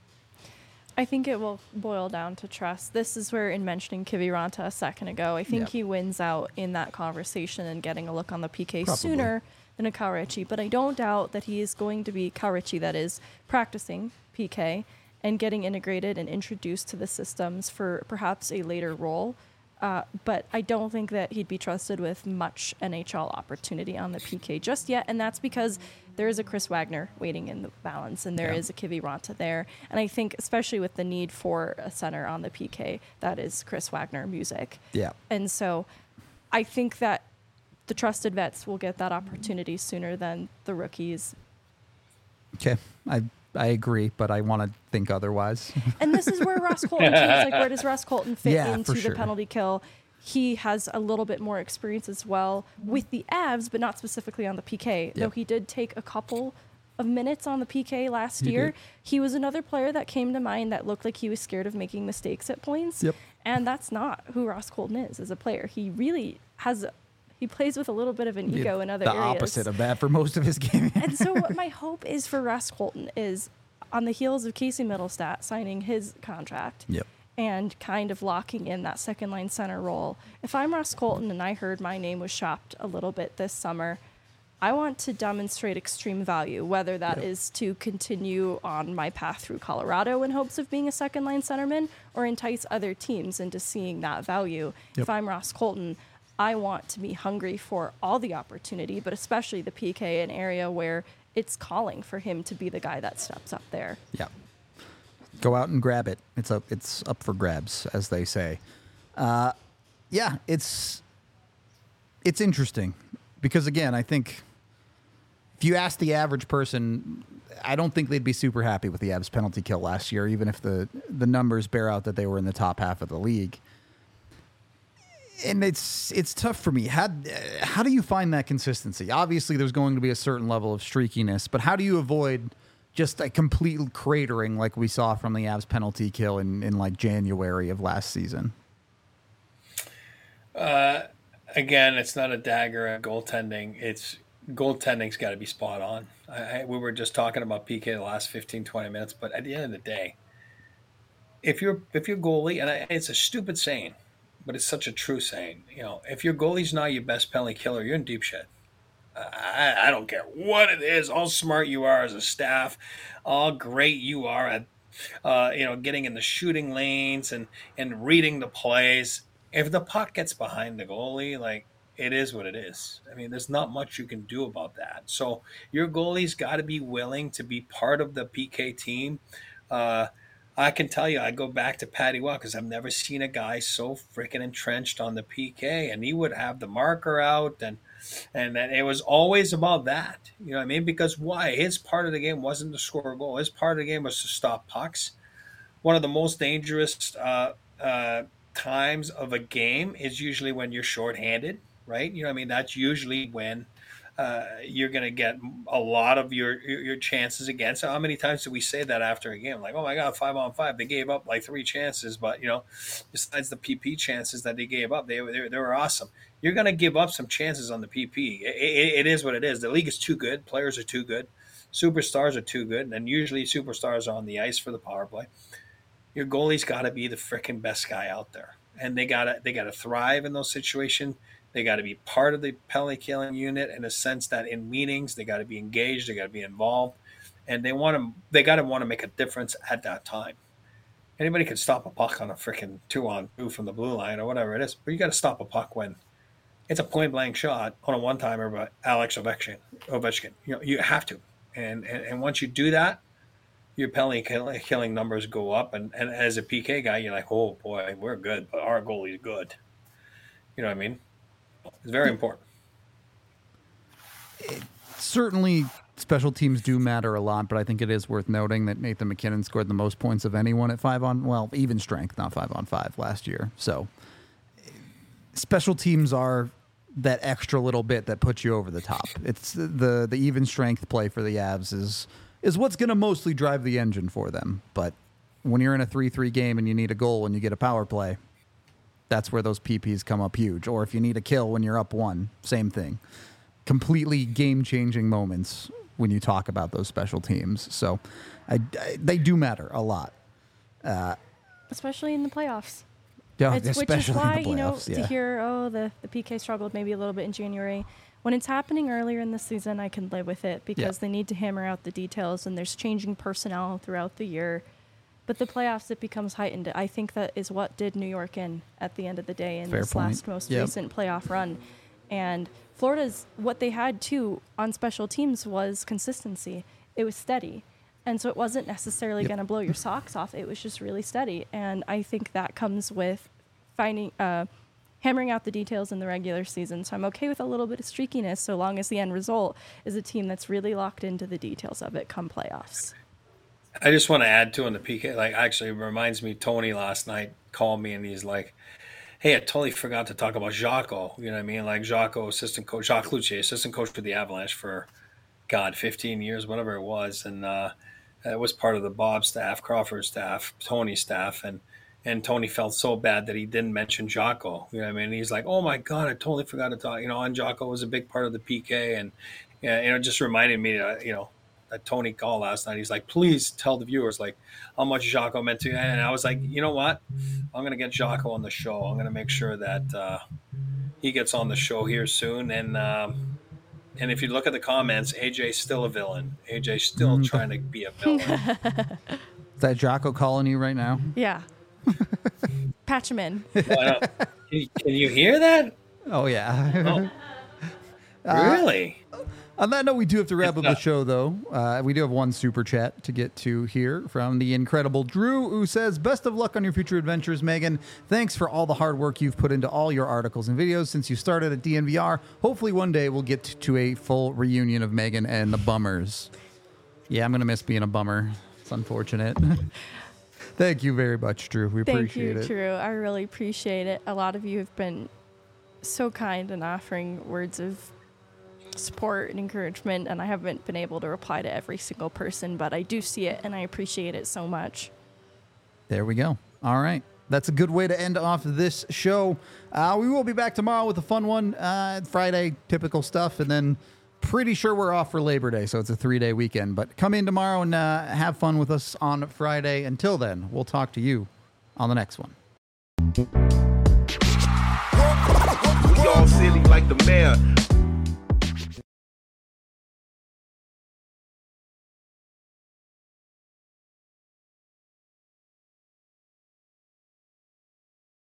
I think it will boil down to trust. This is where, in mentioning Kiviranta a second ago, I think Yep. he wins out in that conversation and getting a look on the P K Probably. sooner than a Cal Ritchie. But I don't doubt that he is going to be Cal Ritchie, that is practicing P K and getting integrated and introduced to the systems for perhaps a later role. Uh, but I don't think that he'd be trusted with much N H L opportunity on the P K just yet. And that's because there is a Chris Wagner waiting in the balance, and there Yeah. is a Kiviranta there. And I think, especially with the need for a center on the P K, that is Chris Wagner music. Yeah. And so I think that the trusted vets will get that opportunity sooner than the rookies. Okay. I I agree, but I want to think otherwise. And this is where Ross Colton, too, is like, where does Ross Colton fit Yeah, into for the sure. penalty kill? He has a little bit more experience as well with the Avs, but not specifically on the P K. Though Yep. he did take a couple of minutes on the P K last He year. did. He was another player that came to mind that looked like he was scared of making mistakes at points. Yep. And that's not who Ross Colton is as a player. He really has, he plays with a little bit of an ego in other the areas. opposite of that for most of his game. And so what my hope is for Ross Colton is, on the heels of Casey Middlestat signing his contract, Yep. and kind of locking in that second line center role. If I'm Ross Colton and I heard my name was shopped a little bit this summer, I want to demonstrate extreme value, whether that Yep. is to continue on my path through Colorado in hopes of being a second line centerman, or entice other teams into seeing that value. Yep. If I'm Ross Colton, I want to be hungry for all the opportunity, but especially the P K, an area where it's calling for him to be the guy that steps up there. Yeah. Go out and grab it. It's up. It's up for grabs, as they say. Uh, yeah, it's it's interesting because again, I think if you ask the average person, I don't think they'd be super happy with the Avs penalty kill last year, even if the the numbers bear out that they were in the top half of the league. And it's it's tough for me. How how do you find that consistency? Obviously, there's going to be a certain level of streakiness, but how do you avoid just a complete cratering like we saw from the Avs penalty kill in, in like January of last season? Uh, again, it's not a dagger at goaltending. It's goaltending's got to be spot on. I, I, we were just talking about P K the last fifteen, twenty minutes, but at the end of the day, if you're if your goalie, and I, it's a stupid saying, but it's such a true saying. You know, if your goalie's not your best penalty killer, you're in deep shit. I, I don't care what it is, how smart you are as a staff, how great you are at uh, you know, getting in the shooting lanes and and reading the plays. If the puck gets behind the goalie, like, it is what it is. I mean, there's not much you can do about that. So your goalie's got to be willing to be part of the P K team. Uh, I can tell you, I go back to Patty Waugh because I've never seen a guy so freaking entrenched on the P K, and he would have the marker out, and and then it was always about that. You know what I mean? Because why? His part of the game wasn't to score a goal. His part of the game was to stop pucks. One of the most dangerous uh, uh, times of a game is usually when you're shorthanded, right? You know what I mean? That's usually when uh, you're going to get a lot of your, your your chances against. How many times do we say that after a game? Like, oh my God, five on five, they gave up like three chances, but you know, besides the P P chances that they gave up, they they, they were awesome. You're going to give up some chances on the P P. It, it, it is what it is. The league is too good. Players are too good. Superstars are too good, and usually superstars are on the ice for the power play. Your goalie's got to be the freaking best guy out there, and they gotta they gotta thrive in those situations. They got to be part of the penalty killing unit in a sense that in meetings they got to be engaged, they got to be involved, and they want to they got to want to make a difference at that time. Anybody can stop a puck on a freaking two on two from the blue line or whatever it is, but you got to stop a puck when it's a point blank shot on a one timer by Alex Ovechkin. Ovechkin, you know, you have to, and and, and once you do that, your penalty killing numbers go up, and, and as a P K guy, you're like, oh boy, we're good, but our goalie's good. You know what I mean? It's very important. It, certainly, special teams do matter a lot, but I think it is worth noting that Nathan MacKinnon scored the most points of anyone at five on, well, even strength, not five on five last year. So special teams are that extra little bit that puts you over the top. It's the the even strength play for the Avs is is what's going to mostly drive the engine for them. But when you're in a three three game and you need a goal and you get a power play, that's where those P Ps come up huge. Or if you need a kill when you're up one, same thing. Completely game-changing moments when you talk about those special teams. So I, I, they do matter a lot. Uh, especially in the playoffs. Yeah, it's, especially which is why, in the you know, playoffs, yeah. to hear, oh, the, the P K struggled maybe a little bit in January. When it's happening earlier in the season, I can live with it because yeah. they need to hammer out the details and there's changing personnel throughout the year. But the playoffs, it becomes heightened. I think that is what did New York in at the end of the day in Fair this point. last most Yep. recent playoff run. And Florida's, what they had too on special teams was consistency. It was steady. And so it wasn't necessarily Yep. going to blow your socks off. It was just really steady. And I think that comes with finding, uh, hammering out the details in the regular season. So I'm okay with a little bit of streakiness so long as the end result is a team that's really locked into the details of it come playoffs. I just want to add to on the P K. Like, actually, it reminds me, Tony last night called me and he's like, hey, I totally forgot to talk about Jocko. You know what I mean? Like, Jocko, assistant coach, Jacques Cloutier, assistant coach for the Avalanche for, God, fifteen years, whatever it was. And uh, it was part of the Bob staff, Crawford staff, Tony's staff. And and Tony felt so bad that he didn't mention Jocko. You know what I mean? And he's like, oh, my God, I totally forgot to talk. You know, and Jocko was a big part of the P K. And, you know, it just reminded me, uh, you know, that Tony called last night. He's like, please tell the viewers like how much Jocko meant to you. And I was like, you know what? I'm going to get Jocko on the show. I'm going to make sure that uh, he gets on the show here soon. And um, and if you look at the comments, A J's still a villain. A J's still mm-hmm. trying to be a villain. Is that Jocko calling you right now? Yeah. Patch him in. Well, can, you, can you hear that? Oh, yeah. Oh. Really? Uh, On that note, we do have to wrap it's up not. the show, though. Uh, we do have one super chat to get to here from the incredible Drew, who says, best of luck on your future adventures, Megan. Thanks for all the hard work you've put into all your articles and videos since you started at D N V R. Hopefully one day we'll get to a full reunion of Megan and the Bummers. Yeah, I'm going to miss being a bummer. It's unfortunate. Thank you very much, Drew. We Thank appreciate you, it. Drew. I really appreciate it. A lot of you have been so kind in offering words of support and encouragement, and I haven't been able to reply to every single person, but I do see it and I appreciate it so much. There we go. All right. That's a good way to end off this show. Uh, we will be back tomorrow with a fun one. Uh, Friday, typical stuff, and then pretty sure we're off for Labor Day, so it's a three-day weekend. But come in tomorrow and uh, have fun with us on Friday. Until then, we'll talk to you on the next one. We all silly like the mayor.